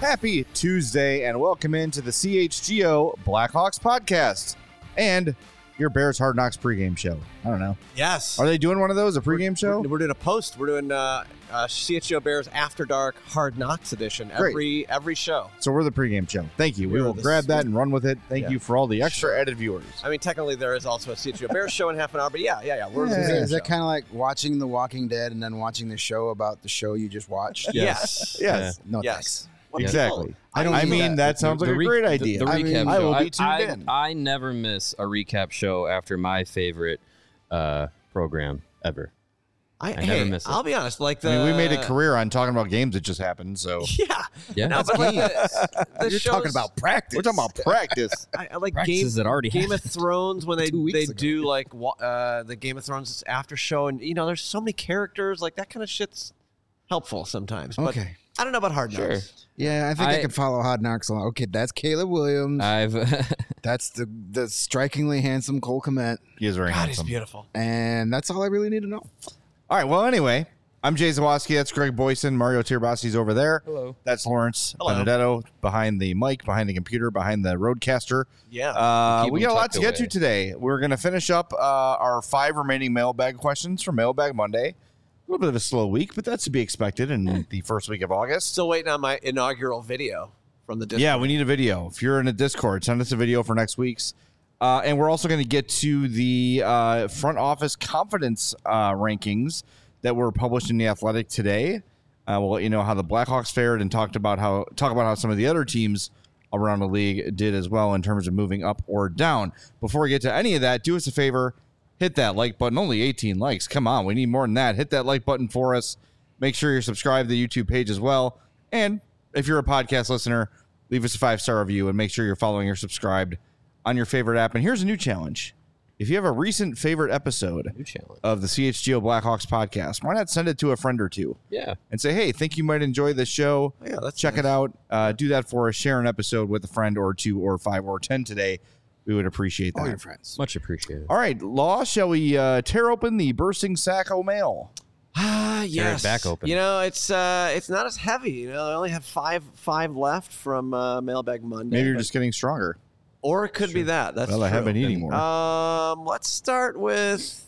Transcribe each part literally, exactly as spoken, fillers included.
Happy Tuesday, and welcome into the C H G O Blackhawks podcast and your Bears Hard Knocks pregame show. I don't know. Yes. Are they doing one of those, a pregame we're, show? We're, we're doing a post. We're doing uh, uh, C H G O Bears After Dark Hard Knocks edition every Great. every show. So we're the pregame show. Thank you. We We're will the- grab that and run with it. Thank Yeah. you for all the extra added viewers. I mean, technically there is also a C H G O Bears show in half an hour, but yeah, yeah, yeah. We're Yeah. the Is, pregame is that show. kind of like watching The Walking Dead and then watching the show about the show you just watched? Yes. Yes, No, Yes. thanks. What the exactly. hell? I don't I do mean, that, that. sounds like The a re- great the- idea. The, I recap mean, show. I will I, be tuned I, in. I never miss a recap show after my favorite uh, program ever. I, I hey, never miss it. I'll be honest. Like the, I mean, we made a career on talking about games that just happened, so Yeah. Yeah, No, but like the, the You're shows, talking about practice. we're talking about practice. I, I like Game, practices that already Game of happened. Thrones when they Two weeks they ago. do like wa- uh, the Game of Thrones after show, and you know, there's so many characters. Like that kind of shit's helpful sometimes. But Okay. I don't know about Hard Sure. Knocks. Yeah, I think I, I- could follow Hard Knocks along. Okay, that's Caleb Williams. I've that's the the strikingly handsome Cole Kmet. He is very God, he's handsome. beautiful. And that's all I really need to know. All right, well, anyway, I'm Jay Zawoski. That's Greg Boyson. Mario Tirabasi's over there. Hello. That's Lawrence Hello. Benedetto behind the mic, behind the computer, behind the roadcaster. Yeah. Uh, Keep we them got a lot tucked to get to away. today. We're going to finish up uh, our five remaining mailbag questions for Mailbag Monday. A little bit of a slow week, but that's to be expected in the first week of August. Still waiting on my inaugural video from the Discord. Yeah, we need a video. If you're in a Discord, send us a video for next week's. Uh, and we're also going to get to the uh, front office confidence uh, rankings that were published in The Athletic today. Uh, we'll let you know how the Blackhawks fared and talked about how talk about how some of the other teams around the league did as well in terms of moving up or down. Before we get to any of that, do us a favor. Hit that like button. Only eighteen likes. Come on. We need more than that. Hit that like button for us. Make sure you're subscribed to the YouTube page as well. And if you're a podcast listener, leave us a five-star review and make sure you're following or subscribed on your favorite app. And here's a new challenge. If you have a recent favorite episode New challenge. of the C H G O Blackhawks podcast, why not send it to a friend or two Yeah. and say, hey, think you might enjoy this show. Yeah, that's Check nice. it out. Uh, do that for us. Share an episode with a friend or two or five or ten today. We would appreciate that. All your friends. Much appreciated. All right, Law, shall we uh, tear open the bursting sack o' mail? Ah, Tear it yes. back open. You know, it's uh, it's not as heavy. You know, I only have five five left from uh, Mailbag Monday. Maybe you're but- just getting stronger. or it could be that. That's well, I true. have been eating more. Um, let's start with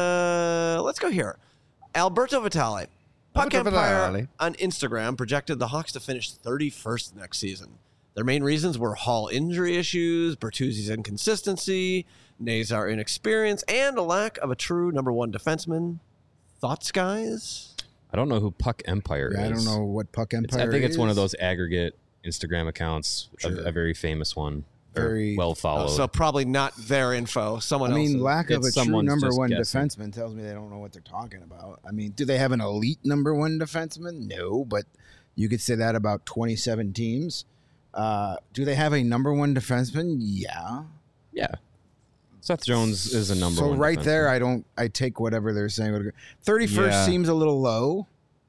uh, let's go here. Alberto Vitale. Puck Alberto Empire Vitale. on Instagram projected the Hawks to finish thirty-first next season. Their main reasons were Hall injury issues, Bertuzzi's inconsistency, Nazar inexperience, and a lack of a true number one defenseman. Thoughts, guys? I don't know who Puck Empire Yeah, I is. don't know what Puck It's- Empire I think it's one of is. those aggregate Instagram accounts, a, Sure. a very famous one, or Very- well Oh, followed. so probably not their info. Someone I mean, else's. lack of a It's true someone's number just one guessing. defenseman tells me they don't know what they're talking about. I mean, do they have an elite number one defenseman? No, but you could say that about twenty-seven teams. Uh, do they have a number one defenseman? Yeah. yeah. Seth Jones is a number so one. right defenseman. there, I don't. I take whatever they're saying. thirty-first Yeah. seems a little low,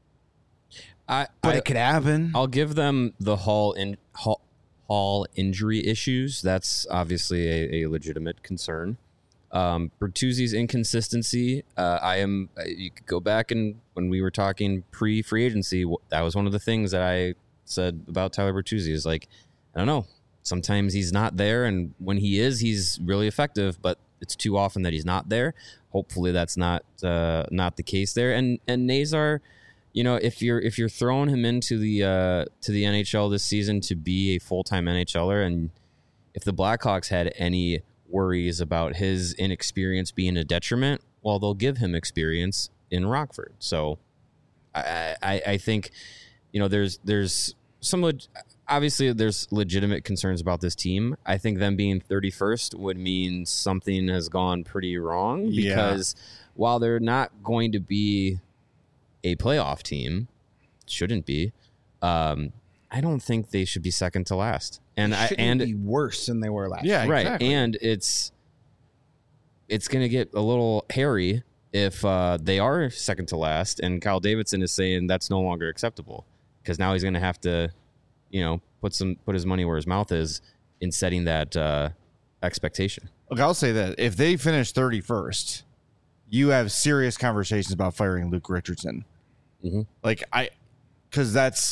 I, but I, it could happen. I'll give them the Hall in Hall, Hall injury issues. That's obviously a, a legitimate concern. Um, Bertuzzi's inconsistency. Uh, I am. uh, You could go back and when we were talking pre-free agency, wh- that was one of the things that I said about Tyler Bertuzzi. Is like, I don't know. Sometimes he's not there, and when he is, he's really effective. But it's too often that he's not there. Hopefully, that's not uh, not the case there. And and Nazar. You know, if you're if you're throwing him into the uh, to the N H L this season to be a full time NHLer, and if the Blackhawks had any worries about his inexperience being a detriment, well, they'll give him experience in Rockford. So, I I, I think, you know, there's there's some leg- obviously there's legitimate concerns about this team. I think them being thirty-first would mean something has gone pretty wrong Yeah. because while they're not going to be a playoff team, shouldn't be. Um, I don't think they should be second to last. And I Shouldn't and be worse than they were last. Yeah, right, exactly. and it's it's going to get a little hairy if uh, they are second to last, and Kyle Davidson is saying that's no longer acceptable because now he's going to have to, you know, put some put his money where his mouth is in setting that uh, expectation. Look, I'll say that if they finish thirty-first, you have serious conversations about firing Luke Richardson. Mhm. Like I, because that's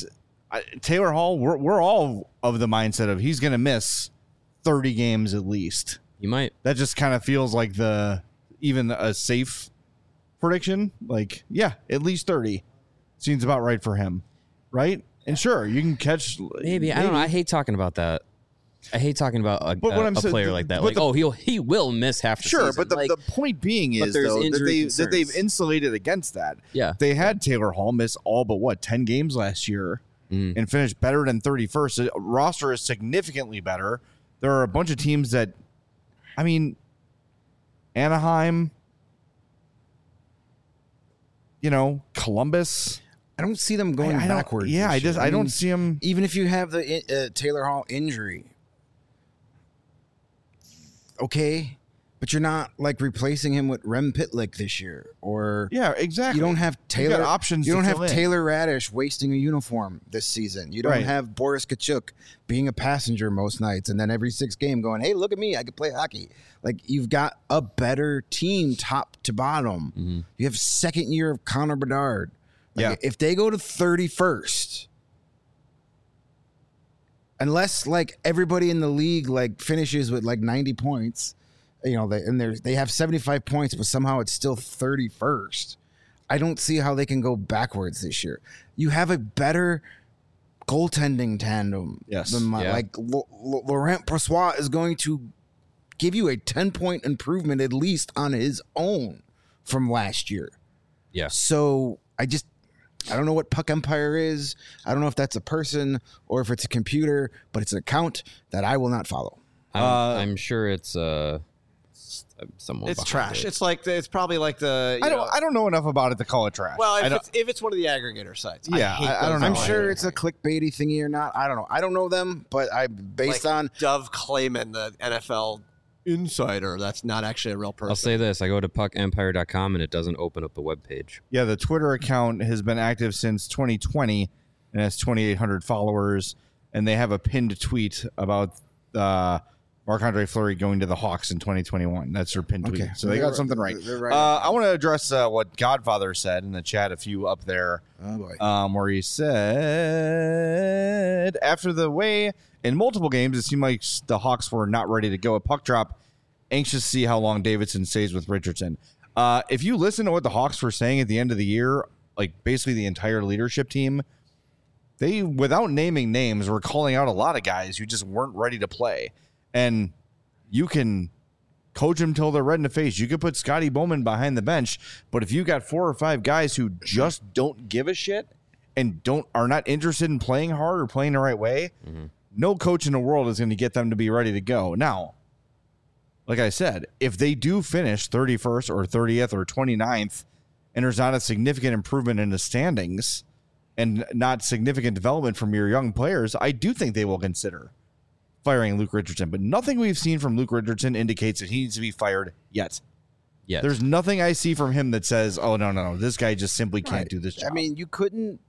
I, Taylor Hall, we're we're all of the mindset of he's going to miss thirty games at least. You might. That just kind of feels like the even a safe prediction. Like, yeah, at least thirty seems about right for him, right? And sure, you can catch Maybe. maybe. I don't know. I hate talking about that. I hate talking about a, But what a, I'm a saying- player like that. but Like, the- oh, he'll he will miss half the Sure, season. but the, Like, the point being but is there's though that injury they that they've concerns. insulated against that. yeah. They had Taylor Hall miss all but what ten games last year Mhm. and finished better than thirty-first. The roster is significantly better. There are a bunch of teams that, I mean, Anaheim, you know, Columbus. I don't see them going I, I don't- backwards. Yeah, this I just year. I don't mean, see them. even if you have the uh, Taylor Hall injury, okay, but you're not like replacing him with Rem Pitlick this year, or Yeah, exactly. you don't have You got Taylor options You to don't have fill in. Taylor Radish wasting a uniform this season. You don't Right. have Boris Kachuk being a passenger most nights, and then every six game going, "Hey, look at me, I can play hockey." Like you've got a better team, top to bottom. Mm-hmm. You have second year of Connor Bedard. Like, Yeah. if they go to thirty-first, unless like everybody in the league like finishes with like ninety points, you know, they and they they have seventy-five points, but somehow it's still thirty-first. I don't see how they can go backwards this year. You have a better goaltending tandem. Yes. than my, Yeah. like L- L- Laurent Brossoit is going to give you a ten point improvement at least on his own from last year. Yeah. So I just I don't know what Puck Empire is. I don't know if that's a person or if it's a computer, but it's an account that I will not follow. I'm, Uh, I'm sure it's uh, s- someone. It's behind trash. it. It's like the, it's probably like the. You I don't know, I don't know enough about it to call it trash. well, I if don't- it's, if it's one of the aggregator sites, Yeah, hate I- I don't those know. I'm No, sure I- it's a clickbaity thingy or not. I don't know. I don't know them, but I based Like on Dove Clayman, the N F L insider. That's not actually a real person. I'll say this: I go to puck empire dot com and it doesn't open up the web page. Yeah, the Twitter account has been active since twenty twenty and has twenty-eight hundred followers, and they have a pinned tweet about uh, Marc-Andre Fleury going to the Hawks in twenty twenty-one. That's their pinned tweet. Okay. So they They're- got something right. they're right. Uh, I want to address uh, what Godfather said in the chat, a few up there, oh boy. um, where he said, after the way in multiple games, it seemed like the Hawks were not ready to go at puck drop, anxious to see how long Davidson stays with Richardson. Uh, if you listen to what the Hawks were saying at the end of the year, like basically the entire leadership team, they, without naming names, were calling out a lot of guys who just weren't ready to play. And you can coach them till they're red in the face. You could put Scotty Bowman behind the bench, but if you got four or five guys who just don't give a shit and don't are not interested in playing hard or playing the right way, Mm-hmm. no coach in the world is going to get them to be ready to go. Now, like I said, if they do finish thirty-first or thirtieth or twenty-ninth and there's not a significant improvement in the standings and not significant development from your young players, I do think they will consider firing Luke Richardson. But nothing we've seen from Luke Richardson indicates that he needs to be fired yet. Yes. There's nothing I see from him that says, oh, no, no, no, this guy just simply can't Right. do this job. I mean, you couldn't.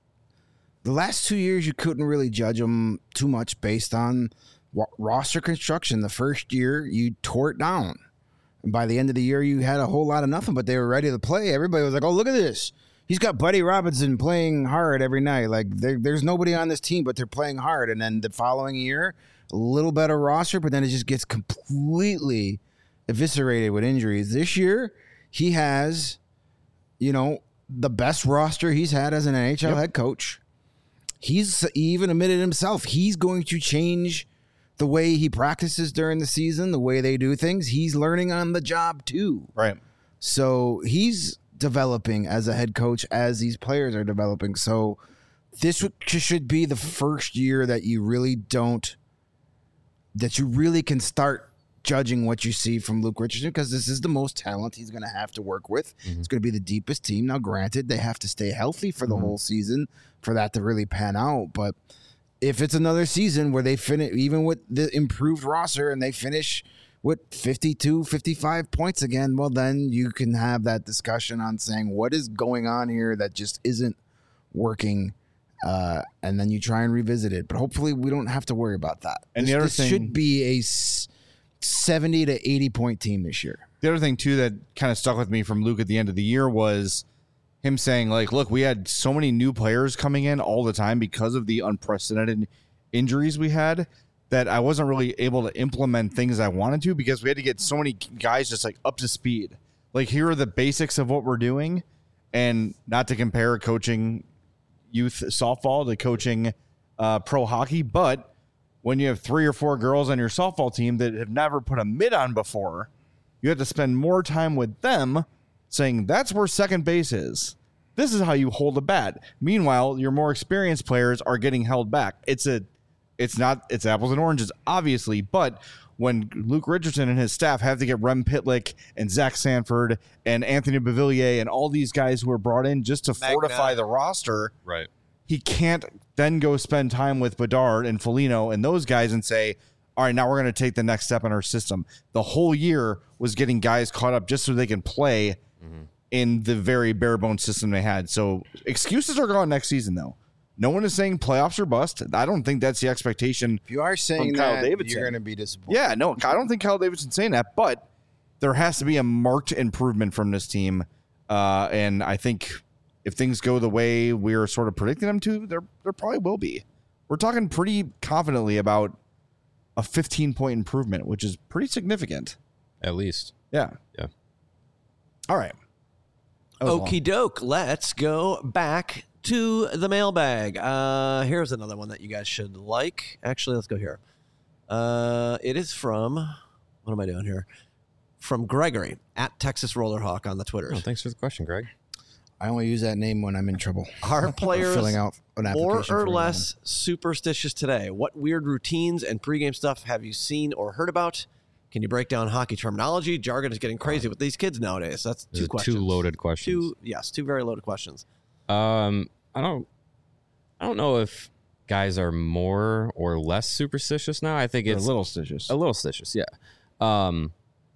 The last two years, you couldn't really judge them too much based on wa- roster construction. The first year, you tore it down. And by the end of the year, you had a whole lot of nothing, but they were ready to play. Everybody was like, oh, look at this. He's got Buddy Robinson playing hard every night. Like, there, there's nobody on this team, but they're playing hard. And then the following year, a little better roster, but then it just gets completely eviscerated with injuries. This year, he has, you know, the best roster he's had as an N H L Yep. head coach. He's he even admitted himself he's going to change the way he practices during the season, the way they do things. He's learning on the job too. right. So he's developing as a head coach as these players are developing. So this would- should be the first year that you really don't, that you really can start judging what you see from Luke Richardson, because this is the most talent he's going to have to work with. It's going to be the deepest team. Now, granted, they have to stay healthy for the whole season for that to really pan out. But if it's another season where they finish, even with the improved roster, and they finish with fifty-two, fifty-five points again, well, then you can have that discussion on saying what is going on here that just isn't working. Uh, and then you try and revisit it. But hopefully we don't have to worry about that. And this, the other this thing- should be a s- seventy to eighty point team this year. The other thing, too, that kind of stuck with me from Luke at the end of the year was him saying like, look, we had so many new players coming in all the time because of the unprecedented injuries we had that I wasn't really able to implement things I wanted to because we had to get so many guys just like up to speed. Like, here are the basics of what we're doing, and not to compare coaching youth softball to coaching uh, pro hockey, but when you have three or four girls on your softball team that have never put a mitt on before, you have to spend more time with them saying that's where second base is. This is how you hold a bat. Meanwhile, your more experienced players are getting held back. It's a, it's not, it's apples and oranges, obviously, but when Luke Richardson and his staff have to get Rem Pitlick and Zach Sanford and Anthony Beauvillier and all these guys who are brought in just to Magna. fortify the roster, Right. he can't then go spend time with Bedard and Foligno and those guys and say, all right, now we're going to take the next step in our system. The whole year was getting guys caught up just so they can play mm-hmm. in the very bare bones system they had. So excuses are gone next season, though. No one is saying playoffs are bust. I don't think that's the expectation. If you are saying Kyle that, Davidson. you're going to be disappointed. Yeah, no, I don't think Kyle Davidson's saying that, but there has to be a marked improvement from this team. Uh, and I think if things go the way we're sort of predicting them to, there there probably will be. We're talking pretty confidently about a fifteen-point improvement, which is pretty significant. At least. Yeah. Yeah. All right. That was long. Okie doke. Let's go back to the mailbag. Uh, here's another one that you guys should like. Actually, let's go here. Uh, it is from, what am I doing here? From Gregory at Texas Rollerhawk on the Twitter. Oh, thanks for the question, Greg. I only use that name when I'm in trouble. Are players filling out an more application or for less superstitious today? What weird routines and pregame stuff have you seen or heard about? Can you break down hockey terminology? Jargon is getting crazy with these kids nowadays. That's two Those are questions. Two loaded questions. Two, yes, two very loaded questions. Um, I don't, I don't know if guys are more or less superstitious now. I think They're it's a little stitious. a little stitious. Yeah. Um,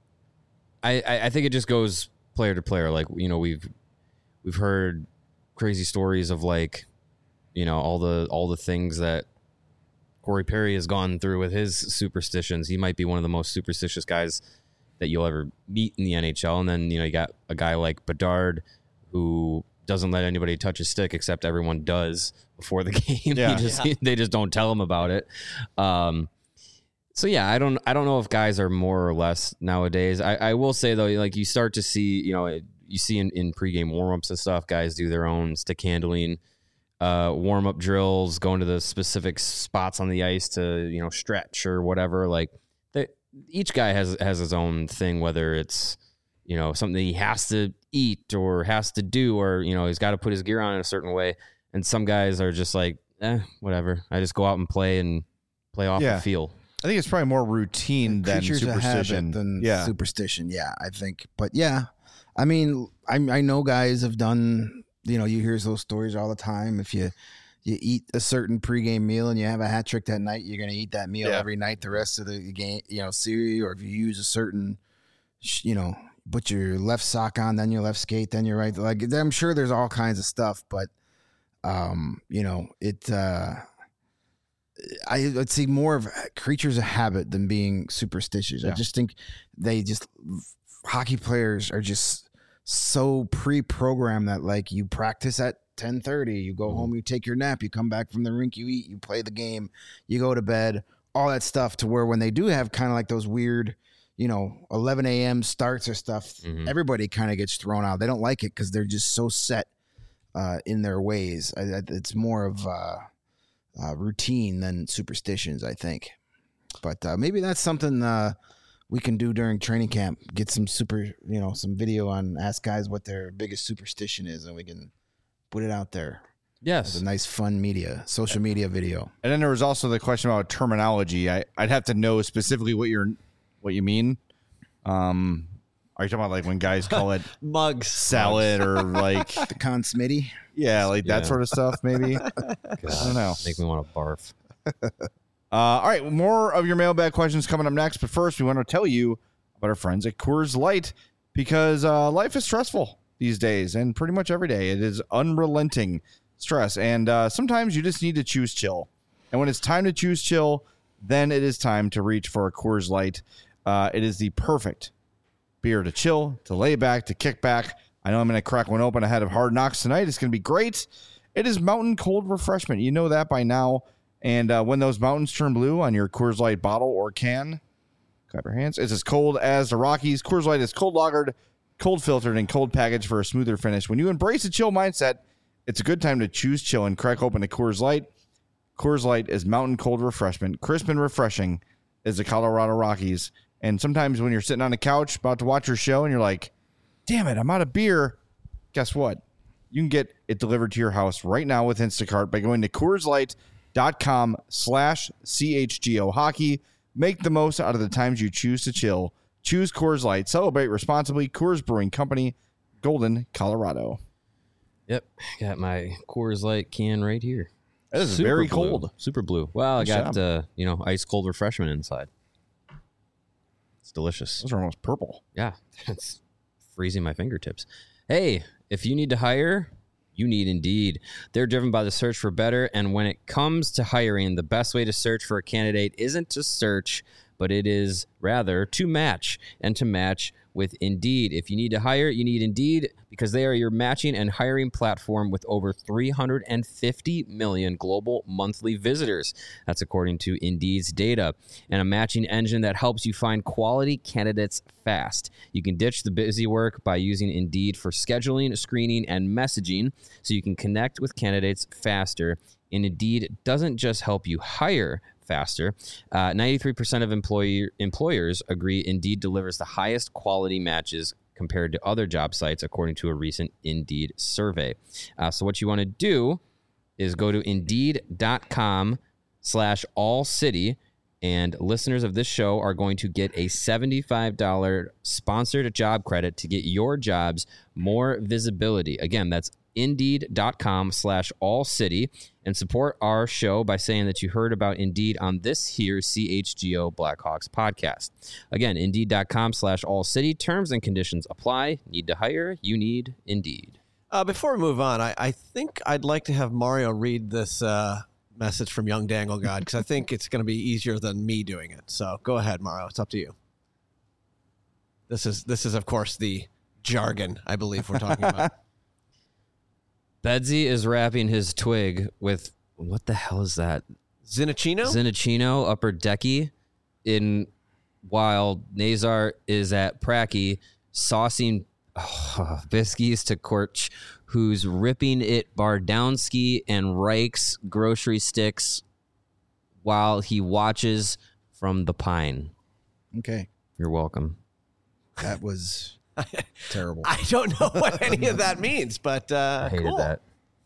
I, I, I think it just goes player to player. Like, you know, we've, we've heard crazy stories of like, you know, all the, all the things that Corey Perry has gone through with his superstitions. He might be one of the most superstitious guys that you'll ever meet in the N H L. And then, you know, you got a guy like Bedard who doesn't let anybody touch his stick except everyone does before the game. Yeah. He just, Yeah. they just don't tell him about it. Um, so yeah, I don't, I don't know if guys are more or less nowadays. I, I will say though, like you start to see, you know, you see in, in pregame warmups and stuff, guys do their own stick handling, uh, warm up drills, going to the specific spots on the ice to, you know, stretch or whatever. Like they, each guy has, has his own thing, whether it's, you know, something he has to eat or has to do, or, you know, he's got to put his gear on in a certain way. And some guys are just like, eh, whatever. I just go out and play and play off Yeah. the field. I think it's probably more routine than Creatures of superstition. habit than yeah. superstition. Yeah, I think. But yeah, I mean, I I know guys have done. You know, you hear those stories all the time. If you you eat a certain pregame meal and you have a hat trick that night, you're going to eat that meal Yeah. every night the rest of the game. You know, series. Or if you use a certain, you know, put your left sock on, then your left skate, then your right. Like I'm sure there's all kinds of stuff, but um, you know, it. uh I would see more of creatures of habit than being superstitious. Yeah. I just think they just hockey players are just so pre-programmed that like you practice at ten thirty, you go Mhm. home, you take your nap, you come back from the rink, you eat, you play the game, you go to bed, all that stuff to where when they do have kind of like those weird, you know, eleven a.m. starts or stuff, Mhm. everybody kind of gets thrown out. They don't like it because they're just so set uh, in their ways. I, I, it's more of uh, Uh, routine than superstitions, I think. But uh, maybe that's something uh, we can do during training camp. Get some super, you know, some video on ask guys what their biggest superstition is, and we can put it out there. Yes. It's a nice, fun media, social media video. And then there was also the question about terminology. I, I'd have to know specifically what you're what you mean. Um, are you talking about like when guys call it Mugs. salad or like The Con Smitty. yeah, like that Yeah. sort of stuff? Maybe. I don't know. Make me want to barf. Uh, all right, more of your mailbag questions coming up next. But first, we want to tell you about our friends at Coors Light because uh, life is stressful these days, and pretty much every day it is unrelenting stress. And uh, sometimes you just need to choose chill. And when it's time to choose chill, then it is time to reach for a Coors Light. Uh, it is the perfect beer to chill, to lay back, to kick back I know I'm going to crack one open ahead of Hard Knocks tonight. It's going to be great. It is Mountain Cold Refreshment. You know that by now. And uh, when those mountains turn blue on your Coors Light bottle or can, clap your hands. It's as cold as the Rockies. Coors Light is cold lagered, cold filtered, and cold packaged for a smoother finish. When you embrace a chill mindset, it's a good time to choose chill and crack open a Coors Light. Coors Light is Mountain Cold Refreshment. Crisp and refreshing as the Colorado Rockies. And sometimes when you're sitting on a couch about to watch your show and you're like, damn it, I'm out of beer. Guess what? You can get it delivered to your house right now with Instacart by going to CoorsLight.com slash CHGO Hockey. Make the most out of the times you choose to chill. Choose Coors Light. Celebrate responsibly. Coors Brewing Company, Golden, Colorado. Yep, got my Coors Light can right here. That is Super very blue. cold. Super blue. Well, Nice I got job. uh, you know ice cold refreshment inside. It's delicious. Those are almost purple. Yeah, it's freezing my fingertips. Hey, if you need to hire, you need Indeed. They're driven by the search for better, and when it comes to hiring, the best way to search for a candidate isn't to search, but it is rather to match, and to match with Indeed. If you need to hire, you need Indeed because they are your matching and hiring platform with over three hundred fifty million global monthly visitors. That's according to Indeed's data. And a matching engine that helps you find quality candidates fast. You can ditch the busy work by using Indeed for scheduling, screening, and messaging so you can connect with candidates faster. And Indeed doesn't just help you hire faster. Uh, ninety-three percent of employer, employers agree Indeed delivers the highest quality matches compared to other job sites, according to a recent Indeed survey. Uh, so what you want to do is go to Indeed.com slash all city, and listeners of this show are going to get a seventy-five dollars sponsored job credit to get your jobs more visibility. Again, that's Indeed.com slash all city, and support our show by saying that you heard about Indeed on this here C H G O Blackhawks podcast. Again, Indeed.com slash all city. Terms and conditions apply. Need to hire? You need Indeed. Uh, before we move on, I, I think I'd like to have Mario read this uh, message from Young Dangle God because I think it's going to be easier than me doing it. So go ahead, Mario. It's up to you. This is this is of course the jargon I believe we're talking about. Bedsy is wrapping his twig with, what the hell is that? Zinachino? Zinachino Upper Decky, in while Nazar is at Pracky saucing oh, Biskies to Korch, who's ripping it Bardowski and Reich's grocery sticks while he watches from the pine. Okay. You're welcome. That was terrible. I don't know what any of that means, but uh, I hated cool. that.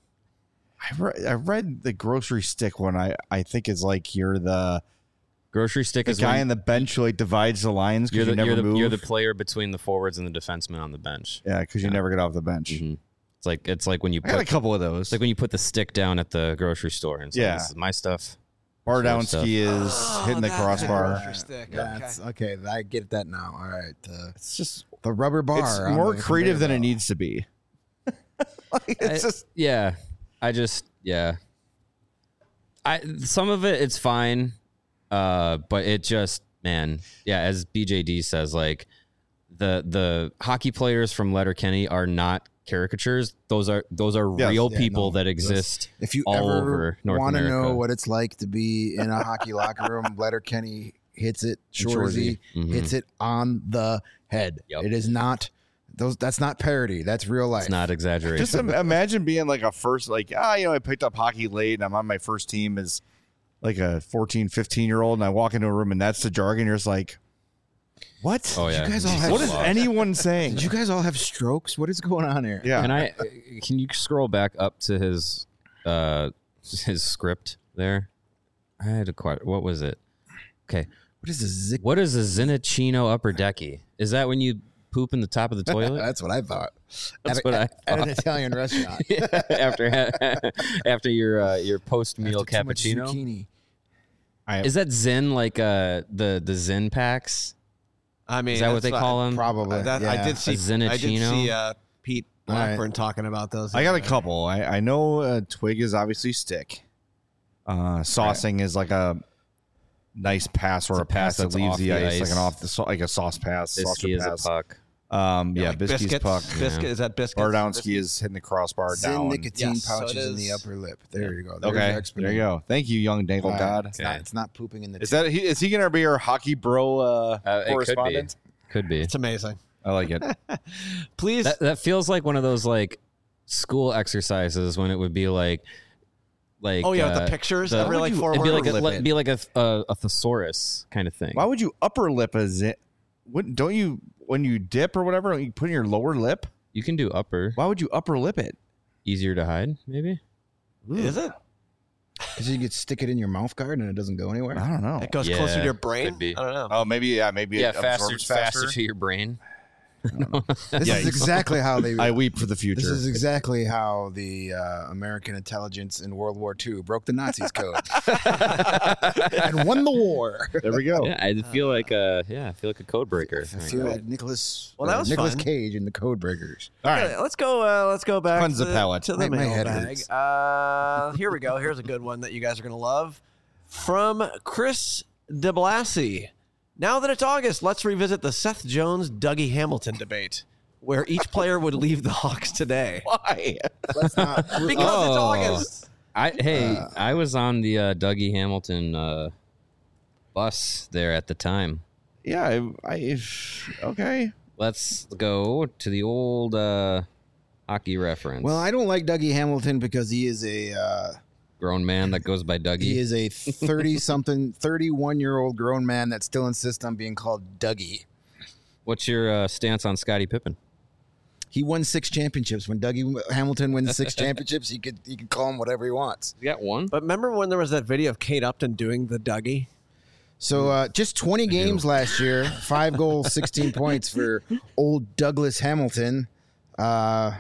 I read, I read the grocery stick one. I, I think is like you're the Grocery stick the is guy when on the bench who like divides the lines you're because the, you never you're, the, move. you're the player between the forwards and the defenseman on the bench. yeah, because you never get off the bench. Mhm. It's like it's like when you I got a put couple of those. it's like when you put the stick down at the grocery store and say, Yeah. this is my stuff. Bardowski is Oh, hitting the that's a crossbar. grocery stick. That's okay. I get that now. All right. Uh, It's just the rubber bar. it's on more the creative conveyor than it belt. needs to be. Like, it's I- just yeah. I just yeah. I some of it it's fine, uh, but it just man, yeah. As B J D says, like the the hockey players from Letterkenny are not caricatures. Those are those are Yes. real Yeah, people no, that those- exist. If you all ever over North want to know America. what it's like to be in a hockey locker room, Letterkenny hits it. And Shorzy Mhm. hits it on the head. Yep. It is not those. That's not parody. That's real life. It's not exaggeration. just im- imagine being like a first, like, ah, you know, I picked up hockey late and I'm on my first team as like a fourteen, fifteen year old. And I walk into a room and that's the jargon. You're just like, what? oh yeah. you guys all have- What is anyone saying? Did you guys all have strokes? What is going on here? yeah. Can I? Can you scroll back up to his uh his script there? I had a quite. What was it? Okay. What is this? Zick? What is a Zinachino Upper Decky? Is that when you poop in the top of the toilet? That's what I thought. That's at, what a- I at, at an thought. Italian restaurant. after after your uh, your post meal After too much cappuccino. zucchini. I, Is that Zen like uh the the Zen packs? I mean, Is that what that's they what- call them? Probably. Uh, that, yeah. I did see. A I did Zinachino? see uh, Pete All right. Blackburn talking about those. I got a couple. I, I know uh, twig is obviously stick. Uh, saucing is like a nice pass or It's a, a pass, pass that that's leaves off the the ice, ice. like an off the sau- like a sauce pass. saucer Bisky is a pass. puck. Um, yeah, like Biscuit's biscuits. puck. Biscuit is that biscuit? Bardowski is hitting the crossbar down. nicotine Yes, so it pouches in the is- upper lip. There you go. There's Okay, your there explanation. you go. Thank you, young dangle Uh, god. It's, not, it's not pooping in the. Is that he, is he gonna be our hockey bro uh, Uh, it could be. correspondent? Could be. It's amazing. I like it. Please. That, that feels like one of those like school exercises when it would be like, like oh yeah, uh, with the pictures the- every like four it'd be words. like a, lip like, it. be like a, a a thesaurus kind of thing. Why would you upper lip as it? Wouldn't don't you when you dip or whatever? Don't you put in your lower lip? You can do upper, Why would you upper lip it? easier to hide, maybe. Is it? Because you could stick it in your mouth guard and it doesn't go anywhere. I don't know. It goes Yeah, closer to your brain. could be. I don't know. Oh, maybe yeah, maybe Yeah, it faster, absorbs faster to your brain. This Yeah, is you- exactly how they. I weep for the future. This is exactly how the uh, American intelligence in World War Two broke the Nazis' code and won the war. there we go. Yeah, I feel like a yeah, I feel like a code breaker. I feel like Nicholas. Well, that uh, was Nicholas fun. Cage in the Code Breakers. All right. Okay, let's go. Uh, let's go back Cleanse to the the, palate. to the My- my head mailbag. hurts. Uh, here we go. Here's a good one that you guys are gonna love from Chris DeBlasi. Now that it's August, let's revisit the Seth Jones Dougie Hamilton debate, where each player would leave the Hawks today. Why? Let's not. Because it's Oh. August. I hey, I was on the uh, Dougie Hamilton uh, bus there at the time. Yeah, I, I okay. Let's go to the old uh, hockey reference. Well, I don't like Dougie Hamilton because he is a uh, grown man that goes by Dougie. he is a thirty-something, thirty-one-year-old grown man that still insists on being called Dougie. What's your uh, stance on Scottie Pippen? He won six championships. When Dougie Hamilton wins six championships, he could he could call him whatever he wants. You got one. But remember when there was that video of Kate Upton doing the Dougie? So uh, just twenty games last year, five goals, sixteen points for old Douglas Hamilton. Uh,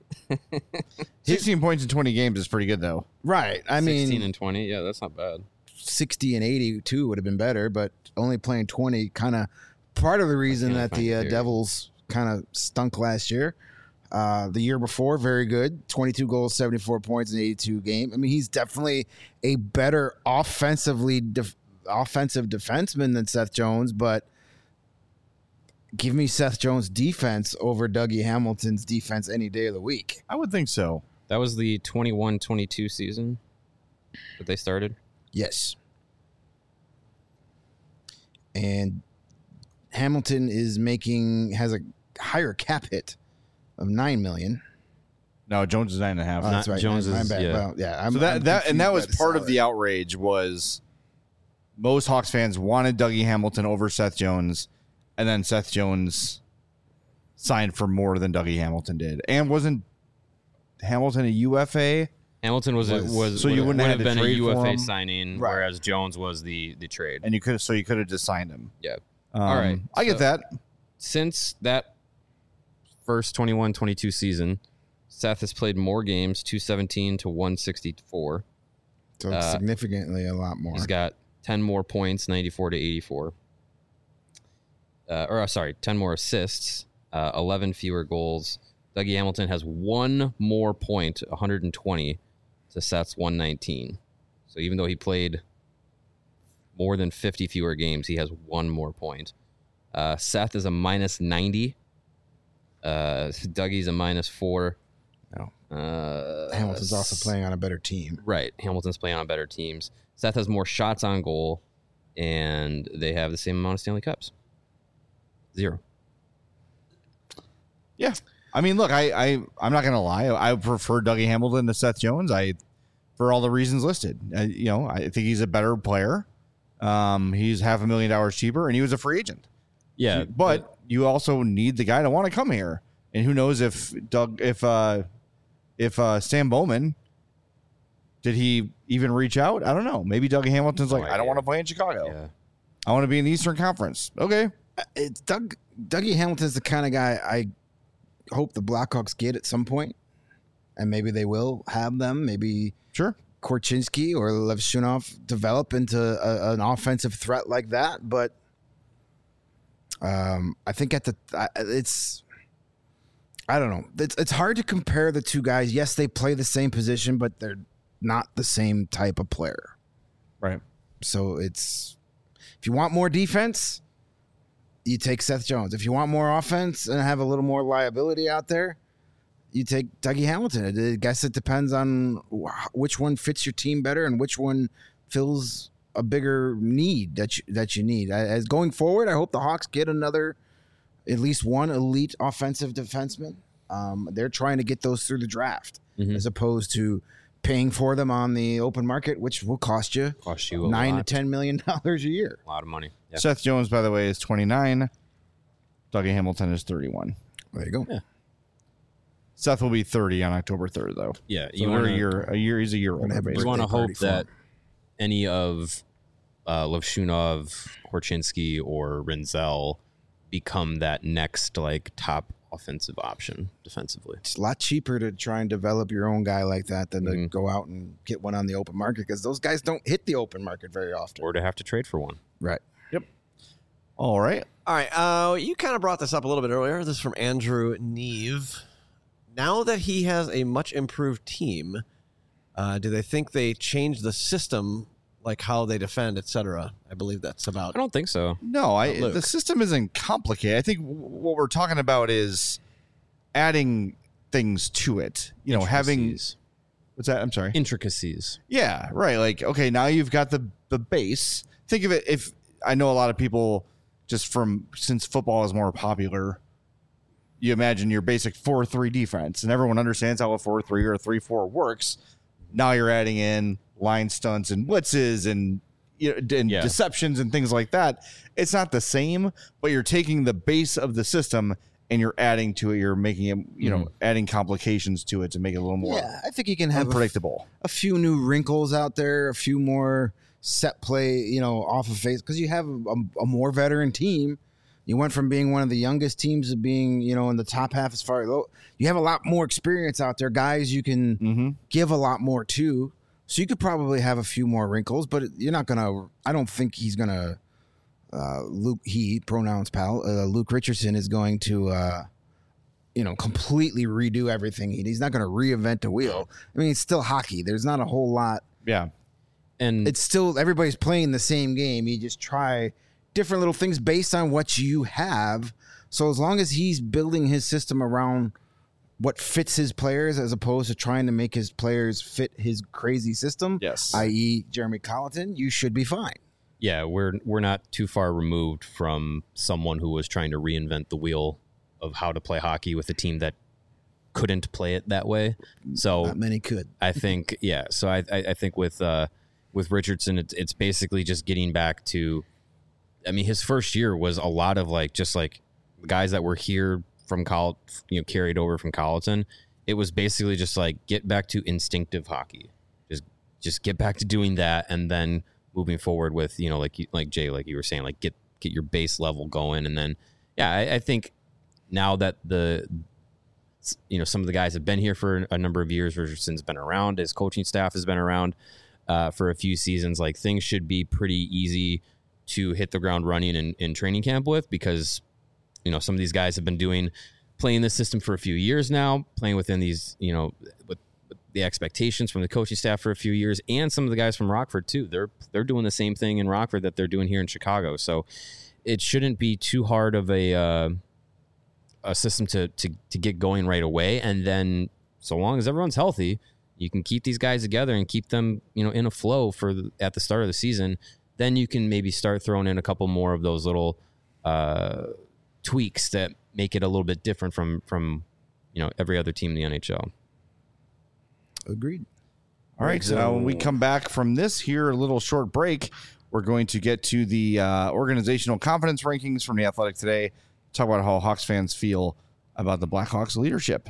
Sixteen points in twenty games is pretty good though. right. I sixteen mean, and twenty. Yeah, that's not bad. sixty and eighty-two would have been better, but only playing twenty kind of part of the reason can't that find the it uh, here. Devils kind of stunk last year. Uh, the year before, very good. twenty-two goals, seventy-four points in eighty-two games. I mean, he's definitely a better offensively def- offensive defenseman than Seth Jones, but give me Seth Jones' defense over Dougie Hamilton's defense any day of the week. I would think so. That was the twenty-one twenty-two season that they started. Yes. And Hamilton is making has a higher cap hit of nine million. No, Jones is nine and a half. Oh, that's Not right. Jones I'm is- bad. yeah. Well, yeah. I'm, so that I'm that and that was confused by part of salary. the outrage was most Hawks fans wanted Dougie Hamilton over Seth Jones, and then Seth Jones signed for more than Dougie Hamilton did, and wasn't Hamilton a U F A? Hamilton was Was- was, was So you would, wouldn't would have have had to been a trade U F for A him? signing, Right. whereas Jones was the the trade. And you could so you could have just signed him. Yeah. Um, All right, I get so- that. Since that first twenty-one twenty-two season, Seth has played more games, two seventeen to one sixty-four. So it's uh, significantly a lot more. He's got ten more points, ninety-four to eighty-four. Uh, or uh, sorry, ten more assists, uh, eleven fewer goals. Dougie Hamilton has one more point, one hundred twenty, to Seth's one nineteen. So even though he played more than fifty fewer games, he has one more point. Uh, Seth is a minus ninety. Uh, Dougie's a minus four. No. Uh, Hamilton's also playing on a better team. Right. Hamilton's playing on better teams. Seth has more shots on goal, and they have the same amount of Stanley Cups. Zero. Yeah. I mean, look, I, I I'm not gonna lie. I prefer Dougie Hamilton to Seth Jones. I for all the reasons listed. I, you know, I think he's a better player. Um, he's half a million dollars cheaper, and he was a free agent. Yeah, but you also need the guy to want to come here. And who knows if Doug, if uh, if uh, Sam Bowman, did he even reach out? I don't know. Maybe Dougie Hamilton's No like, I don't idea. want to play in Chicago. yeah. I want to be in the Eastern Conference. Okay. It's Doug Dougie Hamilton's the kind of guy I hope the Blackhawks get at some point, and maybe they will have them. Maybe Sure. Korchinski or Levshunov develop into a, an offensive threat like that. But um, I think at the I- it's I don't know. It's it's hard to compare the two guys. Yes, they play the same position, but they're not the same type of player. Right. So it's if you want more defense, you take Seth Jones. If you want more offense and have a little more liability out there, you take Dougie Hamilton. I guess it depends on which one fits your team better and which one fills a bigger need that you, that you need. As going forward, I hope the Hawks get another, at least one elite offensive defenseman. Um, they're trying to get those through the draft Mhm. as opposed to paying for them on the open market, which will cost you, Cost you a nine lot. to ten million dollars a year. A lot of money. Yeah. Seth Jones, by the way, is twenty-nine. Dougie Hamilton is thirty-one. There you go. Yeah. Seth will be thirty on October third, though. Yeah, So we're a year, a year, he's a year older. have a basically. You want to birthday party hope for him. that any of uh, Levshunov, Korchinski, or Renzel become that next like top offensive option defensively. It's a lot cheaper to try and develop your own guy like that than to Mhm. go out and get one on the open market because those guys don't hit the open market very often. Or to have to trade for one. Right. All right. All right. Uh, you kind of brought this up a little bit earlier. This is from Andrew Neve. Now that he has a much improved team, uh, do they think they changed the system, like how they defend, et cetera? I believe that's about. I don't think so. No, I Luke. the system isn't complicated. I think w- what we're talking about is adding things to it. You know, having Intricacies. what's that? I'm sorry. Intricacies. Yeah, right. Like, okay, now you've got the the base. Think of it. If I know a lot of people, just from since football is more popular, you imagine your basic four three defense, and everyone understands how a four three or a three four works. Now you're adding in line stunts and blitzes and you know, and Yeah. deceptions and things like that. It's not the same, but you're taking the base of the system and you're adding to it. You're making it, you know, adding complications to it to make it a little more Yeah, I think you can have a, f- unpredictable. a few new wrinkles out there, a few more set play, you know, off of face because you have a, a more veteran team. You went from being one of the youngest teams to being, you know, in the top half as far as you have a lot more experience out there, guys. You can Mm-hmm. give a lot more to, so you could probably have a few more wrinkles, but you're not gonna. I don't think he's gonna. Uh, Luke, he pronouns pal. Uh, Luke Richardson is going to, uh, you know, completely redo everything. He- He's not going to reinvent the wheel. I mean, it's still hockey. There's not a whole lot. Yeah. And It's still everybody's playing the same game. You just try different little things based on what you have. So as long as he's building his system around what fits his players, as opposed to trying to make his players fit his crazy system, Yes. that is. Jeremy Colleton, you should be fine. yeah, we're we're not too far removed from someone who was trying to reinvent the wheel of how to play hockey with a team that couldn't play it that way. So Not many could. I think, yeah. So I, I, I think with uh, with Richardson, it's it's basically just getting back to. I mean, his first year was a lot of like just like guys that were here from college, you know, carried over from Colleton. It was basically just like get back to instinctive hockey, just just get back to doing that, and then moving forward with you know like you, like Jay, like you were saying, like get get your base level going, and then yeah, I, I think now that the you know some of the guys have been here for a number of years, Richardson's been around, his coaching staff has been around uh, for a few seasons, like things should be pretty easy to hit the ground running in, in training camp with, because you know some of these guys have been doing playing this system for a few years now, playing within these you know with, with the expectations from the coaching staff for a few years, and some of the guys from Rockford too. They're they're doing the same thing in Rockford that they're doing here in Chicago. So it shouldn't be too hard of a uh, a system to to to get going right away. And then so long as everyone's healthy, you can keep these guys together and keep them you know in a flow for the, at the start of the season. Then you can maybe start throwing in a couple more of those little uh, tweaks that make it a little bit different from from you know every other team in the N H L. Agreed. All right. So when we come back from this here, a little short break, we're going to get to the uh, organizational confidence rankings from the Athletic today. Talk about how Hawks fans feel about the Blackhawks leadership.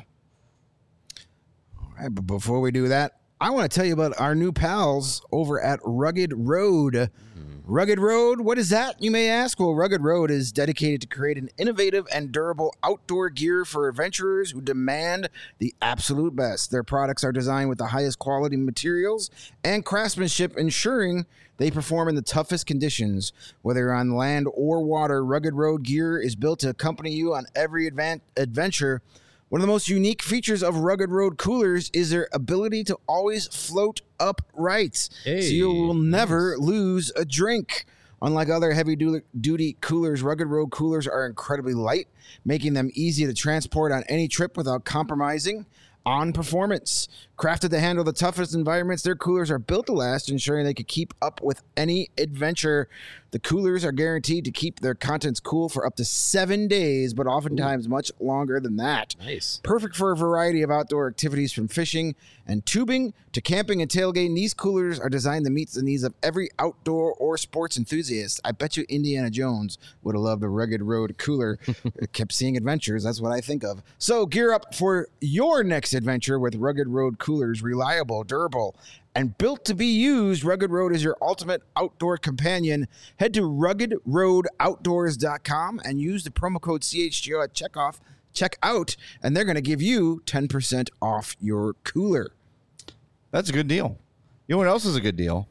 All right, but before we do that, I want to tell you about our new pals over at Rugged Road. Rugged Road, what is that, you may ask? Well, Rugged Road is dedicated to creating innovative and durable outdoor gear for adventurers who demand the absolute best. Their products are designed with the highest quality materials and craftsmanship, ensuring they perform in the toughest conditions. Whether you're on land or water, Rugged Road gear is built to accompany you on every advan- adventure. One of the most unique features of Rugged Road coolers is their ability to always float upright, Hey, so you will never lose a drink. Unlike other heavy-duty coolers, Rugged Road coolers are incredibly light, making them easy to transport on any trip without compromising on performance. Crafted to handle the toughest environments, their coolers are built to last, ensuring they could keep up with any adventure. The coolers are guaranteed to keep their contents cool for up to seven days, but oftentimes Ooh. much longer than that. Nice. Perfect for a variety of outdoor activities from fishing and tubing to camping and tailgating. These coolers are designed to meet the needs of every outdoor or sports enthusiast. I bet you Indiana Jones would have loved a Rugged Road cooler. Kept seeing adventures. That's what I think of. So gear up for your next adventure with Rugged Road coolers. Reliable, durable, and built to be used. Rugged Road is your ultimate outdoor companion. Head to rugged road outdoors dot com and use the promo code C H G O at checkoff, check out, and they're going to give you ten percent off your cooler. That's a good deal. You know what else is a good deal?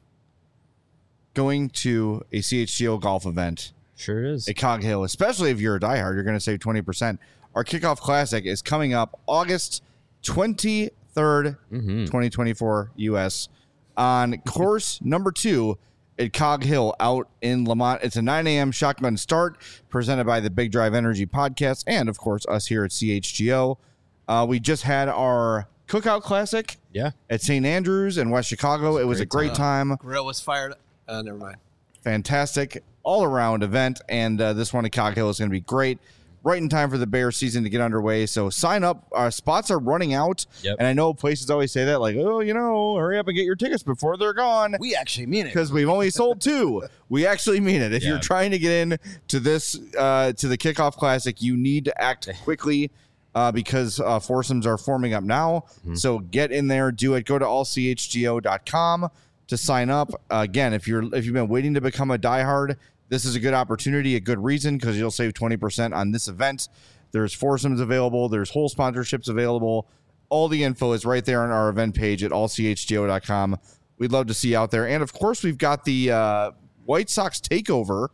Going to a C H G O golf event. Sure is. At Cog Hill, especially if you're a diehard, you're going to save twenty percent. Our Kickoff Classic is coming up August twenty-third, mm-hmm. twenty twenty-four U S on course number two at Cog Hill out in Lamont. It's a nine a.m. shotgun start presented by the Big Drive Energy podcast and, of course, us here at C H G O. Uh, we just had our Cookout Classic yeah. at Saint Andrews in West Chicago. It was a great time. time. Grill was fired. Uh, never mind. Fantastic all-around event, and uh, this one at Cog Hill is going to be great. Right in time for the Bears season to get underway. So sign up. Our spots are running out. Yep. And I know places always say that, like, oh, you know, hurry up and get your tickets before they're gone. We actually mean it. Because we've only sold two. We actually mean it. If yeah. you're trying to get in to this, uh, to the Kickoff Classic, you need to act quickly uh, because uh, foursomes are forming up now. Mm-hmm. So get in there, do it. Go to all c h g o dot com to sign up. Uh, again, if you're if you've been waiting to become a diehard, this is a good opportunity, a good reason, because you'll save twenty percent on this event. There's foursomes available. There's whole sponsorships available. All the info is right there on our event page at all c h g o dot com. We'd love to see you out there. And, of course, we've got the uh, White Sox takeover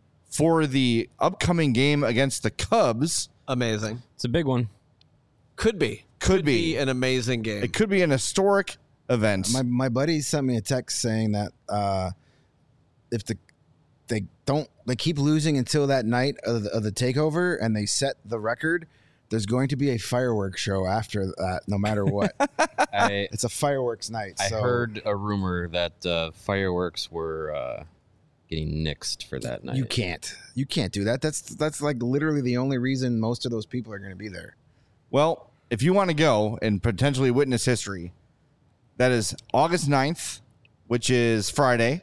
for the upcoming game against the Cubs. Amazing. It's a big one. Could be. Could, could be. be an amazing game. It could be an historic event. My, my buddy sent me a text saying that uh, if the they don't they keep losing until that night of the, of the takeover and they set the record, there's going to be a fireworks show after that no matter what. I, it's a fireworks night. I so. heard a rumor that uh, fireworks were uh, getting nixed for that night. You can't you can't do that. That's that's like literally the only reason most of those people are going to be there. Well, if you want to go and potentially witness history, that is August ninth, which is Friday,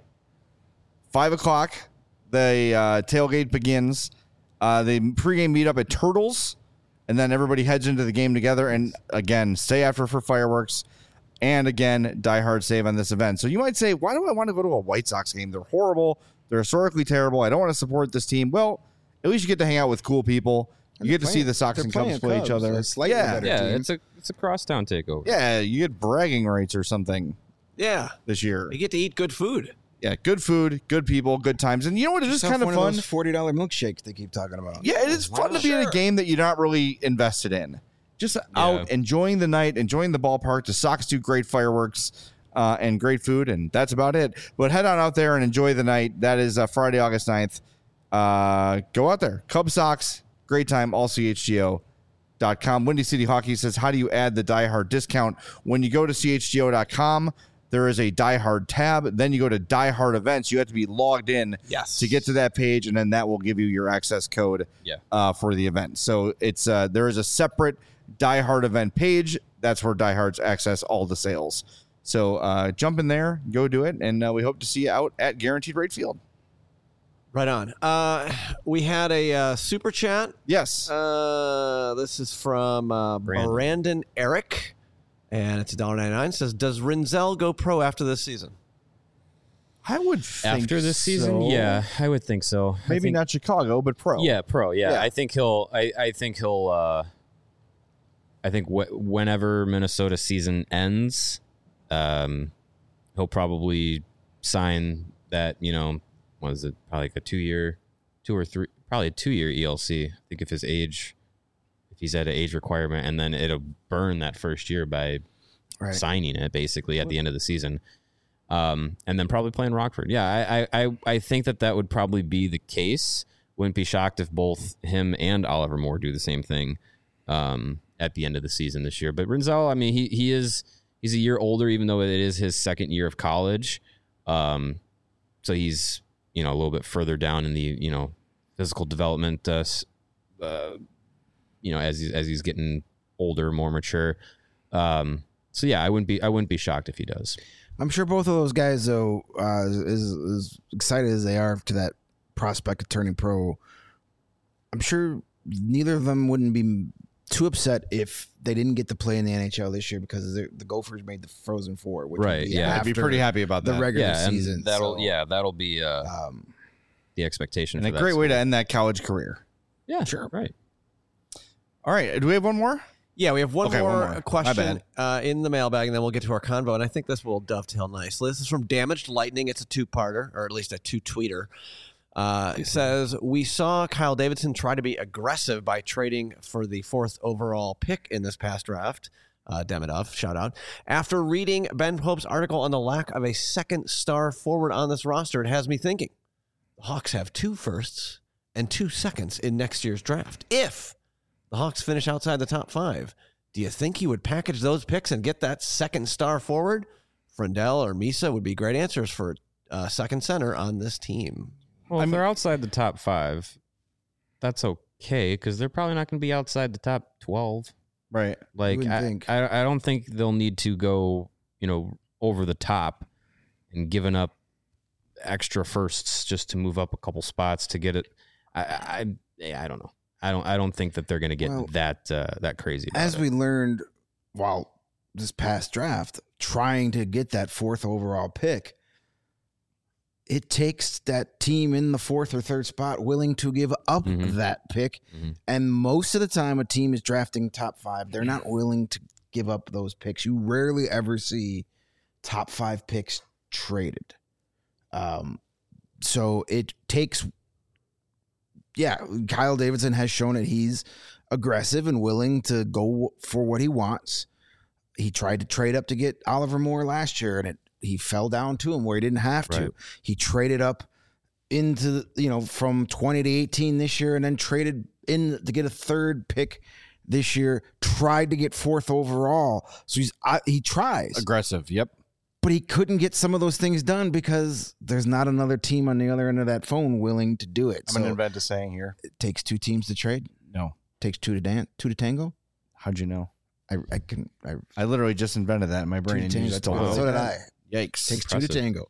five o'clock. The uh, tailgate begins. Uh, the pregame meetup at Turtles, and then everybody heads into the game together. And again, stay after for fireworks. And again, diehard save on this event. So you might say, why do I want to go to a White Sox game? They're horrible. They're historically terrible. I don't want to support this team. Well, at least you get to hang out with cool people. You get to playing, see the Sox and Cubs play Cubs, each other. Yeah, yeah, team. it's a it's a crosstown takeover. Yeah, you get bragging rights or something. Yeah, this year you get to eat good food. Yeah, good food, good people, good times. And you know what? It is kind of fun. Of those forty dollar milkshakes they keep talking about. Yeah, it is fun to be sure. in a game that you're not really invested in. Just yeah. out enjoying the night, enjoying the ballpark. The Sox do great fireworks uh, and great food, and that's about it. But head on out there and enjoy the night. That is uh, Friday, August ninth. Uh, go out there. Cubs, Sox, great time, all c h g o dot com. Windy City Hockey says, how do you add the Die Hard discount? When you go to c h g o dot com, there is a Die Hard tab. Then you go to Die Hard events. You have to be logged in yes. to get to that page, and then that will give you your access code yeah. uh, for the event. So it's uh, there is a separate Die Hard event page. That's where Die Hards access all the sales. So uh, jump in there, go do it, and uh, we hope to see you out at Guaranteed Rate Field. Right on. Uh, we had a uh, super chat. Yes. Uh, this is from uh, Brandon. Brandon Eric. And it's one dollar ninety-nine. Says, does Rinzel go pro after this season? I would think after this season, so. yeah, I would think so. Maybe think, not Chicago, but pro. Yeah, pro. Yeah, yeah. I think he'll. I, I think he'll. Uh, I think wh- whenever Minnesota season ends, um, he'll probably sign that. You know, what is it? Probably like a two year, two or three, probably a two year E L C. I think if his age. If he's at an age requirement, and then it'll burn that first year by right. signing it basically at the end of the season. um, and then probably playing Rockford. Yeah, I, I, I think that that would probably be the case. Wouldn't be shocked if both him and Oliver Moore do the same thing um, at the end of the season this year. But Rinzel, I mean, he he is he's a year older, even though it is his second year of college. Um, so he's you know a little bit further down in the you know physical development. Uh, uh, you know, as he's, as he's getting older, more mature. Um, so yeah, I wouldn't be I wouldn't be shocked if he does. I'm sure both of those guys, though, uh, as, as excited as they are to that prospect of turning pro, I'm sure neither of them wouldn't be too upset if they didn't get to play in the N H L this year because the, the Gophers made the Frozen Four. Which Right, would be yeah. I'd be after pretty happy about the that. regular Yeah, and season. that'll so, yeah that'll be uh, um, the expectation. And for a that great way to school. end that college career. Yeah, Sure. right. All right. Do we have one more? Yeah, we have one Okay, more, one more. My question bad. uh, in the mailbag, and then we'll get to our convo. And I think this will dovetail nicely. This is from Damaged Lightning. It's a two-parter, or at least a two-tweeter. Uh, it says, we saw Kyle Davidson try to be aggressive by trading for the fourth overall pick in this past draft. Uh, Demidov, shout out. After reading Ben Pope's article on the lack of a second star forward on this roster, it has me thinking. The Hawks have two firsts and two seconds in next year's draft. If the Hawks finish outside the top five, do you think he would package those picks and get that second star forward? Frendell or Misa would be great answers for uh, second center on this team. Well, if they're outside the top five, that's okay because they're probably not going to be outside the top twelve. Right. Like wouldn't I, think. I, I don't think they'll need to go, you know, over the top and giving up extra firsts just to move up a couple spots to get it. I, I, I, I don't know. I don't. I don't think that they're going to get Well, that uh, that crazy. About as it. we learned while this past draft, trying to get that fourth overall pick, it takes that team in the fourth or third spot willing to give up Mhm. that pick. Mhm. And most of the time, a team is drafting top five. They're not willing to give up those picks. You rarely ever see top five picks traded. Um, so it takes, yeah, Kyle Davidson has shown that he's aggressive and willing to go for what he wants. He tried to trade up to get Oliver Moore last year, and it he fell down to him where he didn't have to. Right. He traded up into, you know, from twenty to eighteen this year and then traded in to get a third pick this year, tried to get fourth overall. So he's I, he tries, Aggressive. Yep. but he couldn't get some of those things done because there's not another team on the other end of that phone willing to do it. I'm So going to invent a saying here. it takes two teams to trade. No. Takes two to dance, two to tango. How'd you know? I, I can I I literally just invented that in my brain. two And to you tango. just told Wow. me. So did I. Yikes. Takes two to Impressive. tango.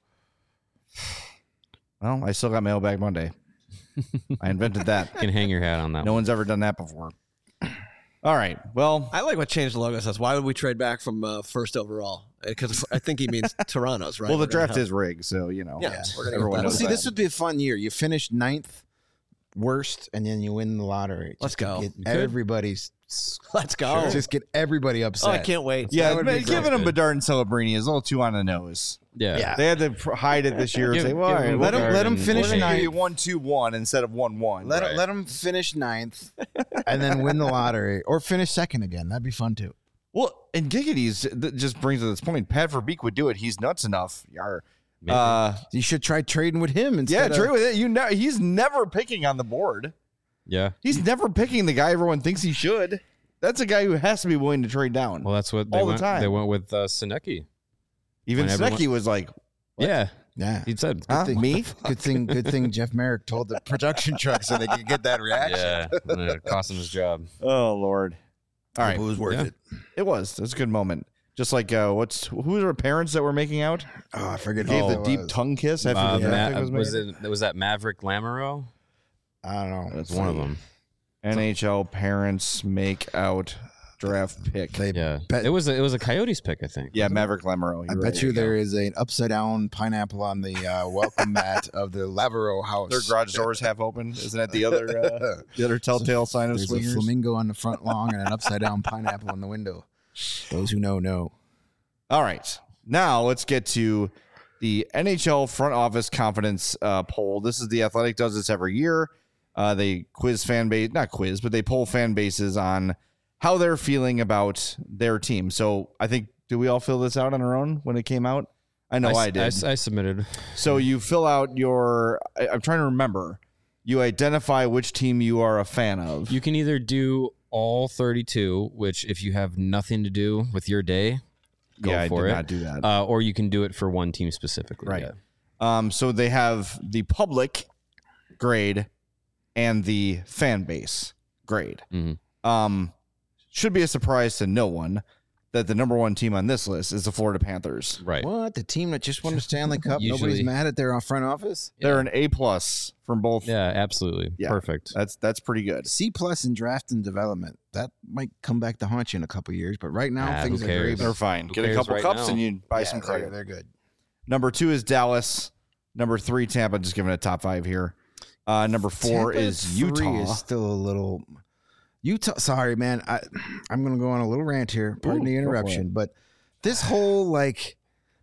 Well, I still got Mailbag Monday. I invented that. You can hang your hat on that. No one. one's ever done that before. All right. Well, I like what Change the Logo says. Why would we trade back from uh, first overall? Because I think he means Toronto's, right? well, the We're gonna draft have- is rigged, so you know. Yeah, we're gonna everyone get knows that. See, that. this would be a fun year. You finish ninth worst, and then you win the lottery. Let's Just to go. Get You could. everybody's Let's go. just get everybody upset. Oh, I can't wait. Yeah, That would but be giving great. him Bedard and Celebrini is a little too on the nose. Yeah. Yeah. They had to pr- hide it this year and Give- say, "Well, give all right, him Let him- Bedard let him and- finish we're gonna ninth. give you one two one instead of one one." Let Right. let them finish ninth, and then win the lottery, or finish second again. That'd be fun too. Well, and Giggity's that just brings to this point. Pat Verbeek would do it. He's nuts enough. Yar. Maybe. Uh, You should try trading with him yeah, instead. true of, with it. You know, he's never picking on the board. yeah. He's never picking the guy everyone thinks he should. That's a guy who has to be willing to trade down. Well, that's what they All the went. time. They went with uh, Senecki. Even when everyone- Snecki was like, Yeah, Yeah. he said. huh, thing- me? Good thing. Good thing Jeff Merrick told the production truck so they could get that reaction. Yeah, and it cost him his job. Oh, Lord. All right. It was worth Yeah. it. It was. It was a good moment. Just like, uh, what's who were our parents that were making out? Oh, I forget. Gave who the it deep was. tongue kiss after Uh, the draft Ma- pick was was, made? it? Was that Maverick Lamoureux? I don't know. That's One of them. N H L parents make out draft pick. They Yeah, bet- it was a, it was a Coyotes pick, I think. Yeah, Maverick Lamoureux. I You're bet right. you there is an upside down pineapple on the uh, welcome mat of the Lavereau house. Their garage doors half open. Isn't that the other uh, the other telltale sign of There's a swingers? flamingo on the front lawn and an upside down pineapple in the window. Those who know know. All right. Now let's get to the N H L front office confidence uh, poll. This is the Athletic does this every year. Uh, they quiz fan base, not quiz, but they poll fan bases on how they're feeling about their team. So I think, do we all fill this out on our own when it came out? I know I, I did. I, I submitted. So you fill out your. I, I'm trying to remember. You identify which team you are a fan of. You can either do all thirty-two, which if you have nothing to do with your day, go yeah, for I did it. not do that. Uh, or you can do it for one team specifically. Right. Yeah. Um, so they have the public grade and the fan base grade. Mm-hmm. Um, should be a surprise to no one that the number one team on this list is the Florida Panthers. Right. What? The team that just won the Stanley Cup? Usually- Nobody's mad at their front office? They're an A plus from both. Yeah, absolutely. Yeah. Perfect. That's that's pretty good. C plus in draft and development. That might come back to haunt you in a couple years, but right now Ah, things who are cares? great. They're fine. Who Get a cares couple right cups now? and you buy Yeah, some they're, credit. they're good. Number two is Dallas. Number three, Tampa. Just giving it a top five here. Uh, number four Tampa is three Utah. Is still a little Utah. Sorry, man. I I'm gonna go on a little rant here. Pardon Ooh, the go for interruption, but this whole like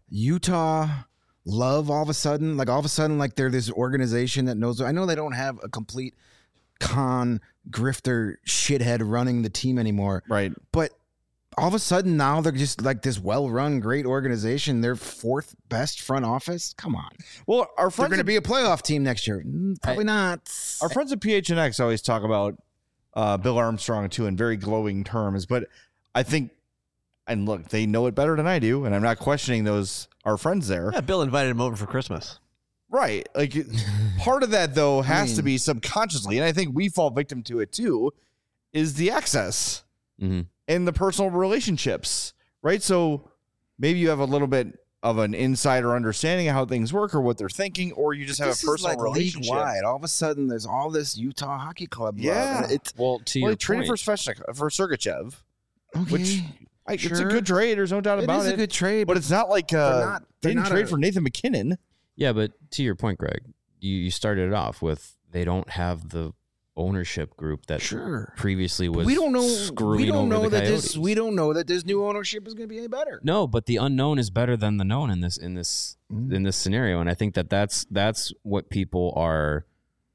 Utah love all of a sudden, like all of a sudden, like they're this organization that knows. I know they don't have a complete con grifter shithead running the team anymore, Right. but all of a sudden now they're just like this well-run, great organization. They're fourth best front office. Come on, Well, our they're friends going to at, be a playoff team next year. Mm, Probably not. our friends at P H N X always talk about uh, Bill Armstrong too in very glowing terms, but I think, and look, they know it better than I do, and I'm not questioning those our friends there. Yeah, Bill invited him over for Christmas. Right. Like it- part of that though has to mean- be subconsciously, and I think we fall victim to it too, is the access Mm-hmm. and the personal relationships. Right. So maybe you have a little bit of an insider understanding of how things work or what they're thinking, or you just have This a is personal like relationship. league-wide. All of a sudden, there's all this Utah Hockey Club. love, Yeah. and it's Well, to Well, your they traded point, for Sveshnik, for Sergachev, okay. which I, it's a sure. good trade. There's no doubt It about is it. a good trade, but it's not like uh, they're not- they they're didn't not trade a- for Nathan McKinnon. yeah, but to your point, Greg, you, you started it off with they don't have the ownership group that sure. previously was We don't know. screwing We don't over know the that Coyotes. this. We don't know that this new ownership is going to be any better. No, but the unknown is better than the known in this in this Mm. in this scenario, and I think that that's that's what people are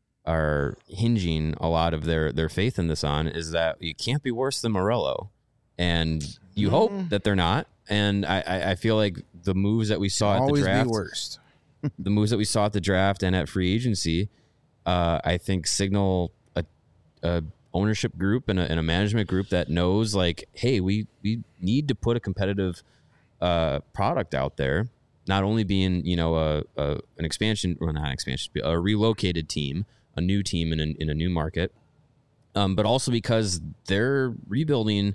are hinging a lot of their their faith in this on is that you can't be worse than Morello, and you Mm. hope that they're not. And I, I I feel like the moves that we saw at the Always draft, be worst. the moves that we saw at the draft and at free agency, uh, I think signal a, a ownership group and a, and a management group that knows like, hey, we we need to put a competitive uh, product out there. Not only being you know a, a an expansion or not an expansion, a relocated team, a new team in a, in a new market, um, but also because their rebuilding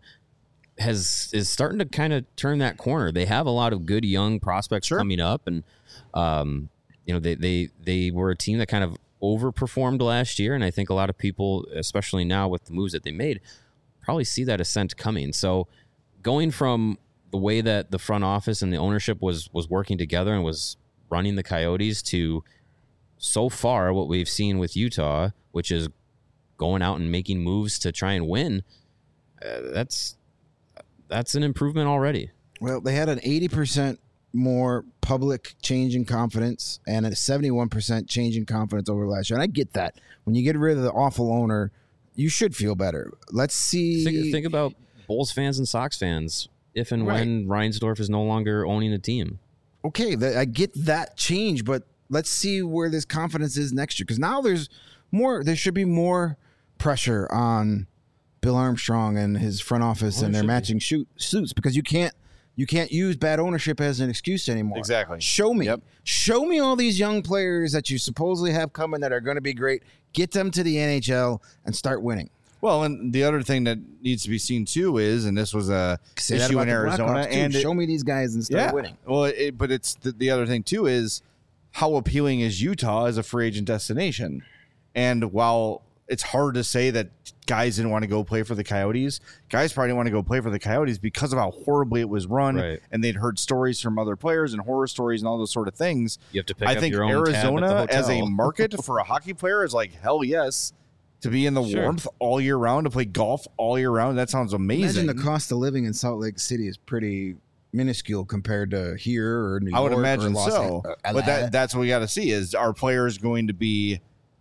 has is starting to kind of turn that corner. They have a lot of good young prospects Sure. coming up, and um, you know they they they were a team that kind of overperformed last year, and I think a lot of people, especially now with the moves that they made, probably see that ascent coming. So going from the way that the front office and the ownership was was working together and was running the Coyotes to so far what we've seen with Utah, which is going out and making moves to try and win, uh, that's that's an improvement already. Well, they had an eighty percent more public change in confidence and a seventy-one percent change in confidence over last year. And I get that. When you get rid of the awful owner, you should feel better. Let's see. Think, think about Bulls fans and Sox fans if and Right. when Reinsdorf is no longer owning the team. okay, th- I get that change, but let's see where this confidence is next year. Because now there's more, there should be more pressure on Bill Armstrong and his front office Oh, and there their should be. matching shoot, suits because you can't you can't use bad ownership as an excuse anymore. Exactly. Show me. Yep. Show me all these young players that you supposedly have coming that are going to be great. Get them to the N H L and start winning. Well, and the other thing that needs to be seen too is, and this was a Say that issue about in the Arizona, Blackhawks, too. and it- show me these guys and start yeah. winning. Well, it, but it's the, the other thing too is how appealing is Utah as a free agent destination, and while it's hard to say that guys didn't want to go play for the Coyotes, guys probably didn't want to go play for the Coyotes because of how horribly it was run, Right. and they'd heard stories from other players and horror stories and all those sort of things. You have to pick I up think your own Arizona tab at the as a hotel. market for a hockey player is like hell yes. To be in the Sure. warmth all year round, to play golf all year round, that sounds amazing. Imagine the cost of living in Salt Lake City is pretty minuscule compared to here or New I would York or imagine Los so. An- uh, But that that's what we got to see is are players going to be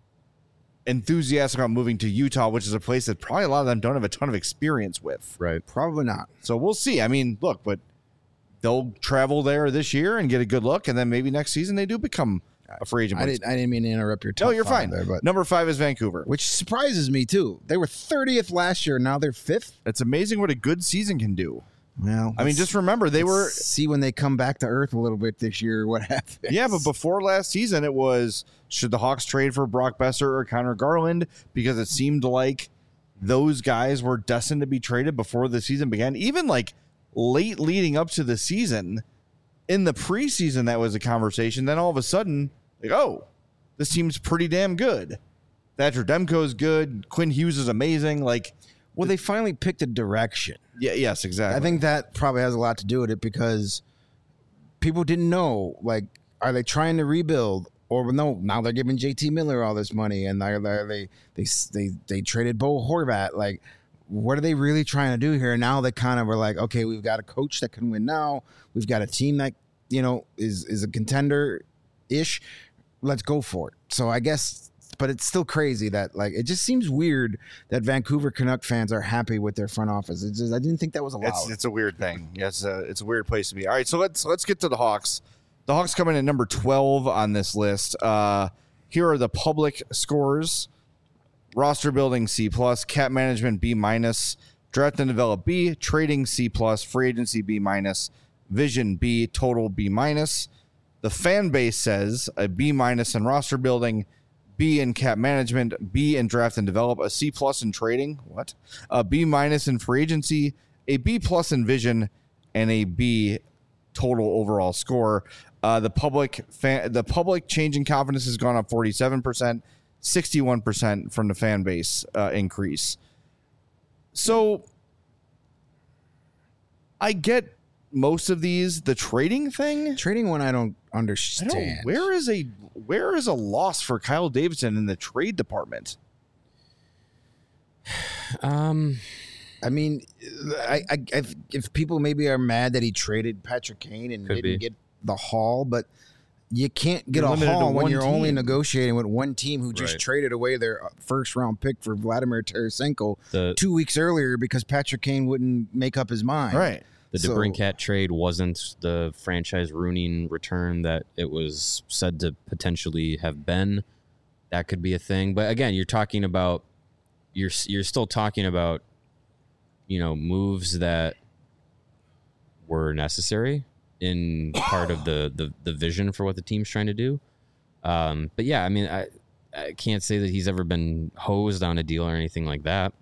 enthusiastic about moving to Utah, which is a place that probably a lot of them don't have a ton of experience with. Right. probably not. So we'll see. I mean, look, but they'll travel there this year and get a good look, and then maybe next season they do become a free agent. I didn't, I didn't mean to interrupt your top No, you're five fine. there, but Number five is Vancouver. which surprises me too. They were thirtieth last year, now they're fifth. It's amazing what a good season can do. Well, I mean, let's- just remember they let's were. see when they come back to earth a little bit this year. What happens? Yeah, but before last season, it was should the Hawks trade for Brock Besser or Connor Garland, because it seemed like those guys were destined to be traded before the season began. Even like late leading up to the season, in the preseason, that was a conversation. Then all of a sudden, like, oh, this team's pretty damn good. Thatcher Demko is good. Quinn Hughes is amazing. Like, well, they finally picked a direction. yeah, yes, exactly. I think that probably has a lot to do with it because people didn't know, like, are they trying to rebuild or no? Now they're giving J T Miller all this money, and they're, they're, they they they they traded Bo Horvat. Like, what are they really trying to do here? Now they kind of were like, okay, we've got a coach that can win now. We've got a team that you know is is a contender ish. Let's go for it. So I guess. But it's still crazy that, like, it just seems weird that Vancouver Canuck fans are happy with their front office. It's just, I didn't think that was allowed. It's, it's a weird thing. Yeah, it's a, it's a weird place to be. All right, so let's let's get to the Hawks. The Hawks come in at number twelve on this list. Uh, here are the public scores: roster building C plus, cap management B minus, draft and develop B, trading C plus, free agency B minus, vision B, total B minus. The fan base says a B minus in roster building, B in cap management, B in draft and develop, a C plus in trading, what? A B minus in free agency, a B plus in vision, and a B total overall score. Uh, the public fan, the public change in confidence has gone up forty-seven percent, sixty-one percent from the fan base uh, increase. So I get most of these. The trading thing, Trading one I don't I understand. don't. Where is a where is a loss for Kyle Davidson in the trade department? Um, I mean, I, I, if, if people maybe are mad that he traded Patrick Kane and Could didn't be. get the haul, but you can't get You're a limited to haul when one you're only team. negotiating with one team who just Right. traded away their first round pick for Vladimir Tarasenko the two weeks earlier because Patrick Kane wouldn't make up his mind. Right. the so- DeBrincat trade wasn't the franchise ruining return that it was said to potentially have been. That could be a thing, but again, you're talking about you're you're still talking about you know moves that were necessary in part of the, the the vision for what the team's trying to do. Um, but yeah, I mean, I I can't say that he's ever been hosed on a deal or anything like that.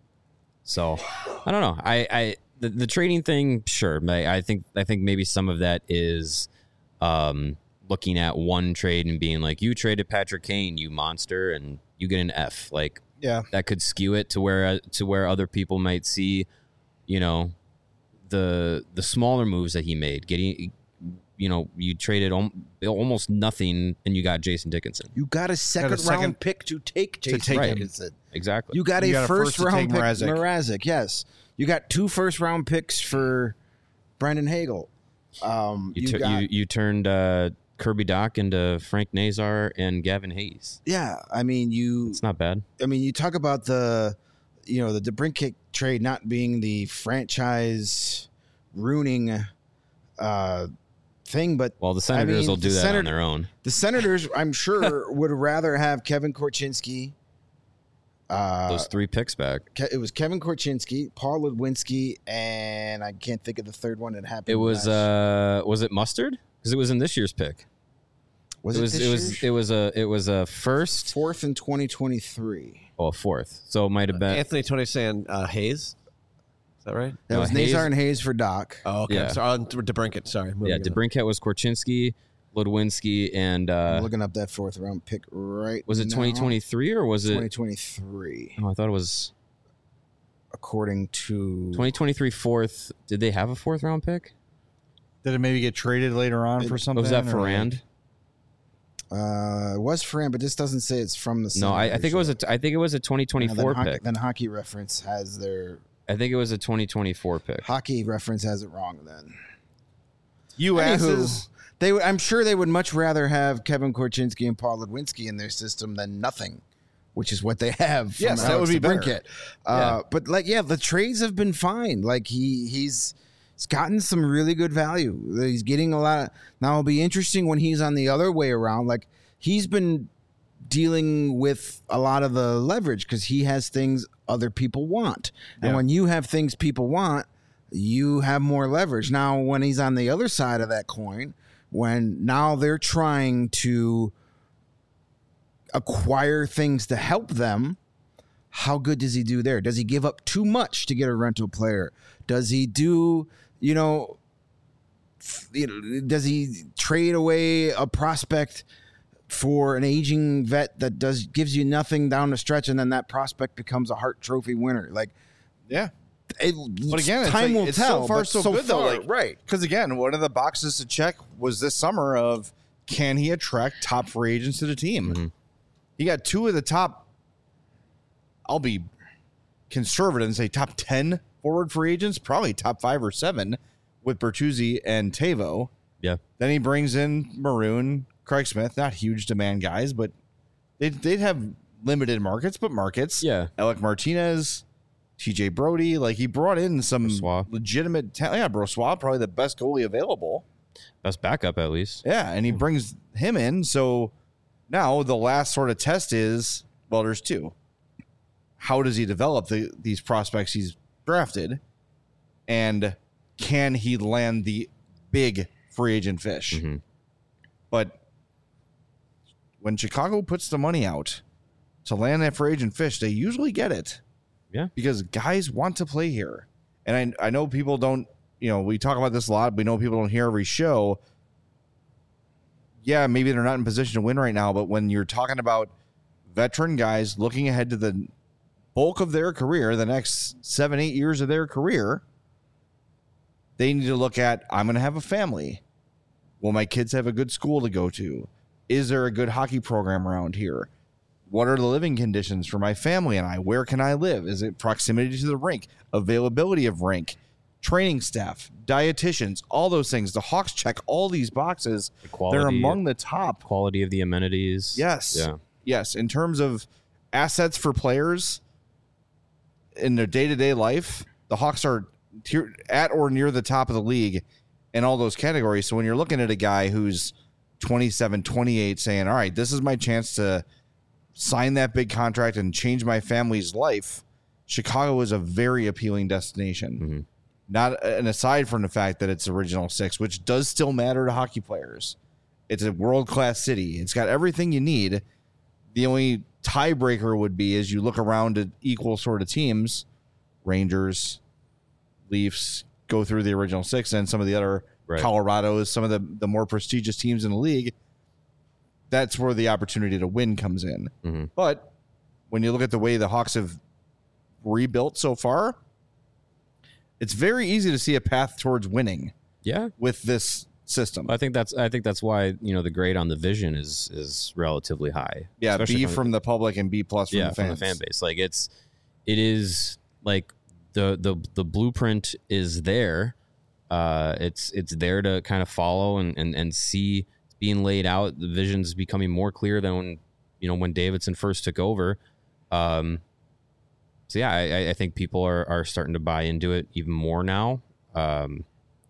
So I don't know. I, I the, the trading thing, sure. I, I think I think maybe some of that is um, looking at one trade and being like, you traded Patrick Kane, you monster, and you get an F. Like Yeah. that could skew it to where to where other people might see, you know, the the smaller moves that he made. Getting, you know, you traded al- almost nothing and you got Jason Dickinson. You got a second, second- round pick to take Jason take him. Dickinson. Exactly. You got You a got a first, first to round take pick, Mrazek. Mrazek. Yes, you got two first round picks for Brandon Hagel. Um, You, you, tu- got, you you turned uh, Kirby Doc into Frank Nazar and Gavin Hayes. yeah. I mean, you. It's not bad. I mean, you talk about the, you know, the DeBrincat trade not being the franchise ruining uh, thing, but Well, the Senators mean, will do the that Senator- on their own. the Senators, I'm sure, would rather have Kevin Korchinski. Uh, Those three picks back. Ke- it was Kevin Korchinski, Paul Ludwinski, and I can't think of the third one that happened. It was last- uh was it Mustard? Because it was in this year's pick. was it it, was this it was year's? it was a it was a first fourth in twenty twenty-three. oh a fourth. So it might have been Anthony Tony saying uh, Hayes. Is that right? That No, was Hayes- Nazar and Hayes for Doc. Oh, okay. Yeah. Sorry, on DeBrincat. Sorry. yeah, Moving on. DeBrincat was Korchinski, Ludwinski, and I'm uh looking up that fourth round pick right was it now. twenty twenty-three or was it twenty twenty-three, oh I thought it was according to twenty twenty-three fourth. Did they have a fourth round pick? Did it maybe get traded later on It- for was something? was that or Ferrand? Uh, it was Fran, but this doesn't say it's from the. No, I, I Senators think it was a yet. I think it was a twenty And twenty-four then hockey, pick. Then Hockey Reference has their I think it was a twenty twenty-four pick. Hockey Reference has it wrong. Then You Anywho, asses. They, would- I'm sure they would much rather have Kevin Korchinski and Paul Ludwinski in their system than nothing, which is what they have. From Yes, that Alex would be better. DeBrincat. Uh, But like, yeah, the trades have been fine. Like he, he's, He's gotten some really good value. He's getting a lot of, now it'll be interesting when he's on the other way around. Like he's been dealing with a lot of the leverage because he has things other people want. And Yeah. when you have things people want, you have more leverage. Now, when he's on the other side of that coin, when now they're trying to acquire things to help them, how good does he do there? Does he give up too much to get a rental player? Does he do, you know, f- you know, does he trade away a prospect for an aging vet that does gives you nothing down the stretch, and then that prospect becomes a Hart Trophy winner? Like, Yeah. it, But again, it's time like- will it's tell. so far but so, good though. far- Like, right? Because again, one of the boxes to check was this summer of can he attract top free agents to the team? Mhm. He got two of the top. I'll be conservative and say top ten forward free agents, probably top five or seven with Bertuzzi and Tavo. Yeah. Then he brings in Maroon, Craig Smith, not huge demand guys, but they'd, they'd have limited markets, but markets. Yeah. Alec Martinez, T J Brody, like he brought in some Brossoit. legitimate talent. Yeah, Brossoit, probably the best goalie available. Best backup, at least. Yeah, and he brings him in. So now the last sort of test is, well, there's two. How does he develop the, these prospects he's drafted? And can he land the big free agent fish? Mhm. But when Chicago puts the money out to land that free agent fish, they usually get it. Yeah. Because guys want to play here. And I, I know people don't, you know, we talk about this a lot. We know people don't hear every show. Yeah, maybe they're not in position to win right now, but when you're talking about veteran guys looking ahead to the bulk of their career, the next seven, eight years of their career, they need to look at, I'm going to have a family. Will my kids have a good school to go to? Is there a good hockey program around here? What are the living conditions for my family and I? Where can I live? Is it proximity to the rink? Availability of rink? Training staff? Dietitians? All those things. The Hawks check all these boxes. The quality, They're among the top. quality of the amenities. Yes. Yeah. Yes. In terms of assets for players in their day-to-day life, the Hawks are tier, at or near the top of the league in all those categories. So when you're looking at a guy who's twenty-seven, twenty-eight saying, all right, this is my chance to sign that big contract and change my family's life, Chicago is a very appealing destination. Mhm. Not and aside from the fact that it's original six, which does still matter to hockey players. It's a world-class city. It's got everything you need. The only tiebreaker would be as you look around at equal sort of teams, Rangers, Leafs, go through the original six, and some of the other Right. Colorado's, some of the, the more prestigious teams in the league. That's where the opportunity to win comes in. Mhm. But when you look at the way the Hawks have rebuilt so far, it's very easy to see a path towards winning Yeah. with this system. I think that's I think that's why, you know, the grade on the vision is is relatively high. Yeah, Especially B from- from the public and B plus from yeah, the from fans. the fan base. Like it's it is like the the the blueprint is there. Uh it's it's there to kind of follow and and, and see it's being laid out. The vision's becoming more clear than when, you know, when Davidson first took over. Um so yeah, I, I think people are, are starting to buy into it even more now. Um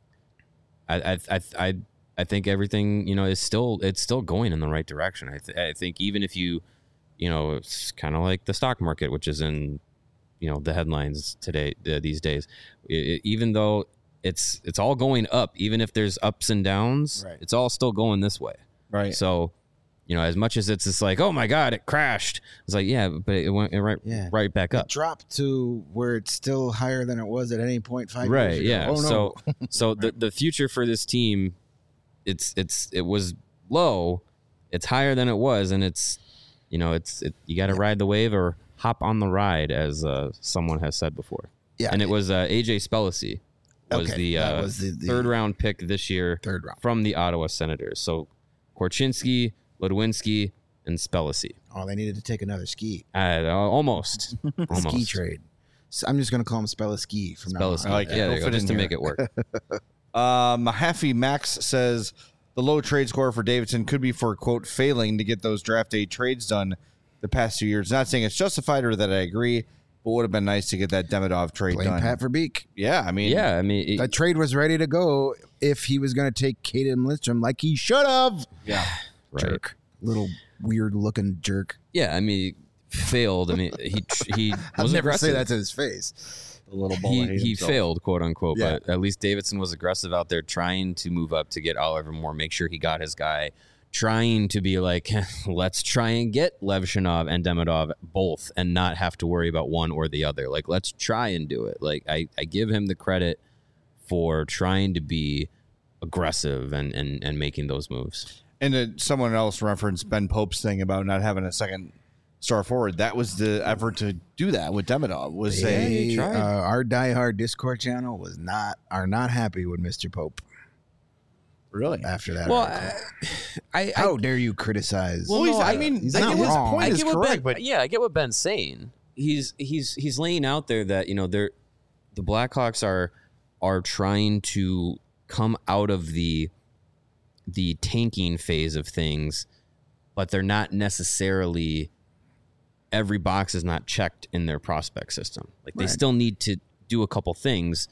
I I I I, I think everything, you know, is still it's still going in the right direction. I th- I think even if you you know, it's kind of like the stock market, which is in, you know, the headlines today, uh, these days. It, it- even though it's it's all going up, even if there's ups and downs, Right. it's all still going this way. Right. So, you know, as much as it's just like, oh my God, it crashed. It's like, yeah, but it went it right Yeah. right back It up. dropped to where it's still higher than it was at any point five Right. years ago. Yeah. Oh, no. So so the the future for this team, it's it's it was low, it's higher than it was, and it's, you know, it's it, you got to ride the wave or hop on the ride, as uh, someone has said before. Yeah. And it was uh, A J Spellacy was Okay, the, that uh, was the- the- third round pick this year Third round. from the Ottawa Senators. So Korchinski, Ludwinski, and Spellacy. Oh, they needed to take another ski. Uh, almost. The almost. ski trade. So I'm just going to call him Spella Ski from now Spellacy. on. I like it. yeah, It'll there you go, fit just in to here. make it work. Um, Happy Max says the low trade score for Davidson could be for, quote, failing to get those draft day trades done the past two years. Not saying it's justified or that I agree. but would have been nice to get that Demidov trade Blame done. Pat Verbeek. Yeah, I mean, Yeah, I mean, it- That trade was ready to go if he was going to take Caden Lindstrom like he should have. yeah. right. Jerk. Little weird looking jerk. Yeah, I mean, failed. I mean, he he I'll was never aggressive. say that to his face. The little ball. he hates he himself. failed, quote unquote. Yeah. But at least Davidson was aggressive out there, trying to move up to get Oliver Moore, make sure he got his guy, trying to be like, let's try and get Levshinov and Demidov both, and not have to worry about one or the other. Like, let's try and do it. Like, I I give him the credit for trying to be aggressive and and and making those moves. And uh, someone else referenced Ben Pope's thing about not having a second star forward. That was the effort to do that with Demidov. Was say, They, tried. uh, our diehard Discord channel was not are not happy with Mister Pope really? after that. Well, article. I, I How dare you criticize? Well, he's- I mean, he's I not get his wrong. point I is get what correct, Ben, but yeah, I get what Ben's saying. He's he's he's laying out there that, you know, they're the Blackhawks are are trying to come out of the the tanking phase of things, but they're not necessarily every box is not checked in their prospect system. Like they Right. still need to do a couple things,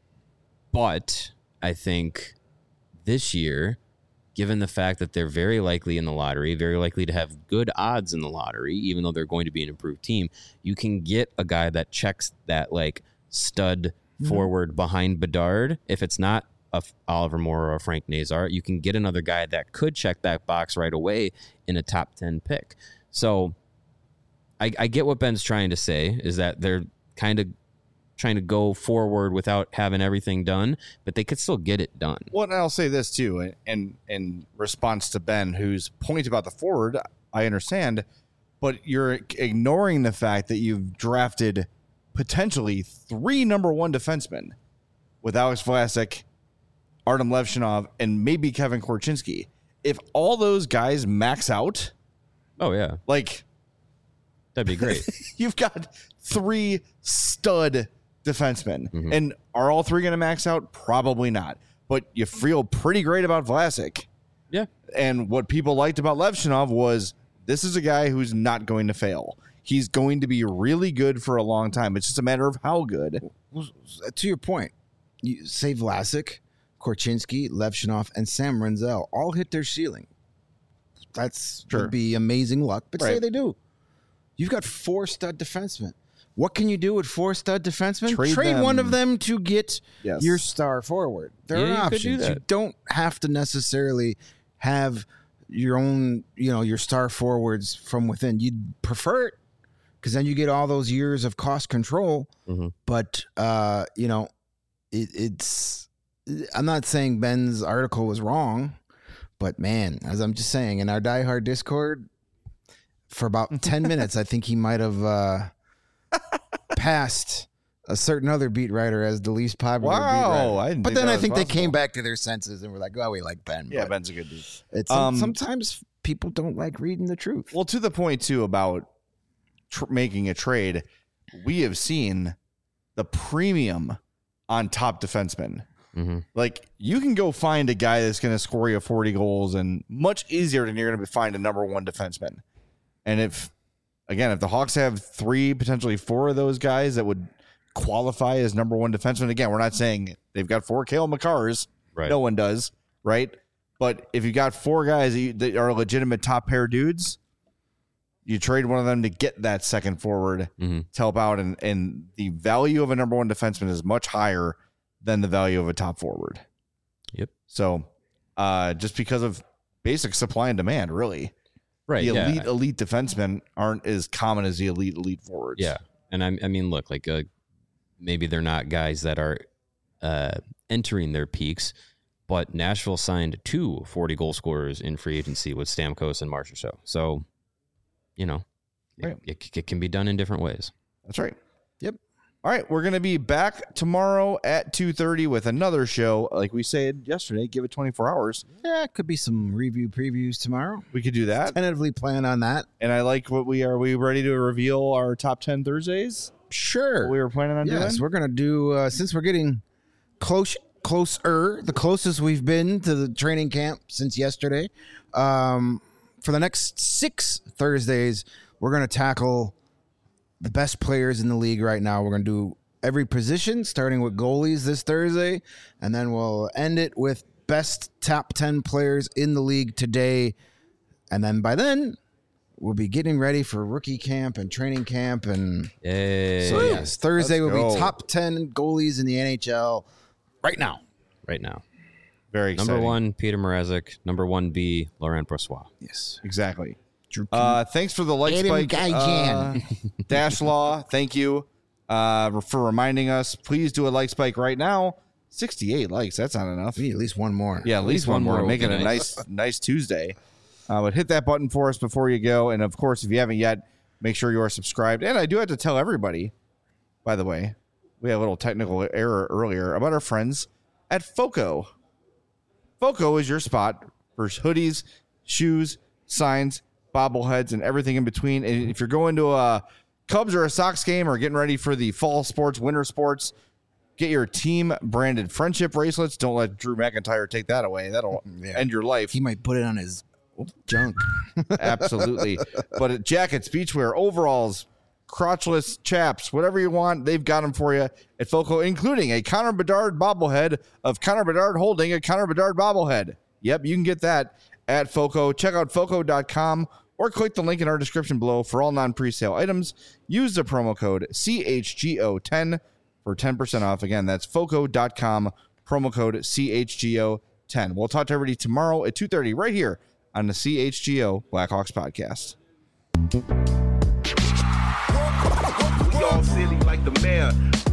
but I think this year, given the fact that they're very likely in the lottery, very likely to have good odds in the lottery, even though they're going to be an improved team, you can get a guy that checks that like stud Mm-hmm. forward behind Bedard. If it's not a F- Oliver Moore or a Frank Nazar, you can get another guy that could check that box right away in a top ten pick. So I, I get what Ben's trying to say, is that they're kind of trying to go forward without having everything done, but they could still get it done. Well, and I'll say this too, in, in in response to Ben, whose point about the forward, I understand, but you're ignoring the fact that you've drafted potentially three number one defensemen with Alex Vlasic, Artem Levshinov, and maybe Kevin Korchinski. If all those guys max out, Oh, yeah. like That'd be great. you've got three stud defensemen. Mhm. And are all three going to max out? Probably not. But you feel pretty great about Vlasic. Yeah. And what people liked about Levshinov was this is a guy who's not going to fail. He's going to be really good for a long time. It's just a matter of how good. Well, to your point, you say Vlasic, Korchinski, Levshinov, and Sam Renzel all hit their ceiling. That's Sure. would be amazing luck, but say Right. they do. You've got four stud defensemen. What can you do with four stud defensemen? Trade Trade one them. of them to get Yes. your star forward. There Yeah, are you could options. do that. You don't have to necessarily have your own, you know, your star forwards from within. You'd prefer it because then you get all those years of cost control. Mhm. But uh, you know, it, it's. I'm not saying Ben's article was wrong, but man, as I'm just saying, in our diehard Discord, for about ten minutes, I think he might have uh, passed a certain other beat writer as the least popular beat Wow. writer. I didn't But think then that I was think they possible. came back to their senses and were like, "Oh, we like Ben." Yeah, But Ben's a good dude. it's Um, sometimes people don't like reading the truth. Well, to the point too about tr- making a trade, we have seen the premium on top defensemen. Mm-hmm. Like you can go find a guy that's going to score you forty goals, and much easier than you're going to find a number one defenseman. And if again, if the Hawks have three, potentially four of those guys that would qualify as number one defenseman, again, we're not saying they've got four Cale Makars. Right. No one does, right? But if you got four guys that, you, that are legitimate top pair dudes, you trade one of them to get that second forward Mm-hmm. to help out, and, and the value of a number one defenseman is much higher than the value of a top forward. Yep. So uh, just because of basic supply and demand, really, Right. the yeah. elite elite defensemen aren't as common as the elite elite forwards. Yeah, and I, I mean, look, like uh, maybe they're not guys that are uh, entering their peaks, but Nashville signed two forty goal scorers in free agency with Stamkos and Marchessault. So, you know, it, Right. it, it can be done in different ways. That's right. Yep. All right, we're gonna be back tomorrow at two thirty with another show. Like we said yesterday, give it twenty-four hours. Yeah, it could be some review previews tomorrow. We could do that. Tentatively plan on that. And I like what we are. We ready to reveal our top ten Thursdays? Sure. What we were planning on Yes, doing. we're gonna do uh, since we're getting close, closer, the closest we've been to the training camp since yesterday. Um, for the next six Thursdays, we're gonna tackle the best players in the league right now. We're going to do every position, starting with goalies this Thursday, and then we'll end it with best top ten players in the league today. And then by then, we'll be getting ready for rookie camp and training camp. And Yay. so, yes, Thursday Let's will go. be top ten goalies in the N H L right now. Right now. Very exciting. Number one, Peter Mrazek. Number one B, Laurent Brossois. Yes. Exactly. Uh, thanks for the like Adam spike, Gaijan. uh, Dash Law. Thank you uh, for reminding us. Please do a like spike right now. sixty-eight likes. That's not enough. We need at least one more. Yeah, at least one more. would Make be it a nice. nice, nice Tuesday. Uh, but hit that button for us before you go. And of course, if you haven't yet, make sure you are subscribed. And I do have to tell everybody, by the way, we had a little technical error earlier about our friends at FOCO. FOCO is your spot for hoodies, shoes, signs, bobbleheads, and everything in between. And if you're going to a Cubs or a Sox game or getting ready for the fall sports, winter sports, get your team branded friendship bracelets. Don't let Drew McIntyre take that away. That'll Yeah. end your life. He might put it on his junk. Absolutely. But at jackets, beachwear, overalls, crotchless chaps, whatever you want, they've got them for you at FOCO, including a Connor Bedard bobblehead of Connor Bedard holding a Connor Bedard bobblehead. Yep, you can get that at FOCO. Check out foco dot com or click the link in our description below for all non-presale items. Use the promo code C H G O ten for ten percent off. Again, that's foco dot com, promo code C H G O ten. We'll talk to everybody tomorrow at two thirty right here on the C H G O Blackhawks podcast. We all silly like the mayor.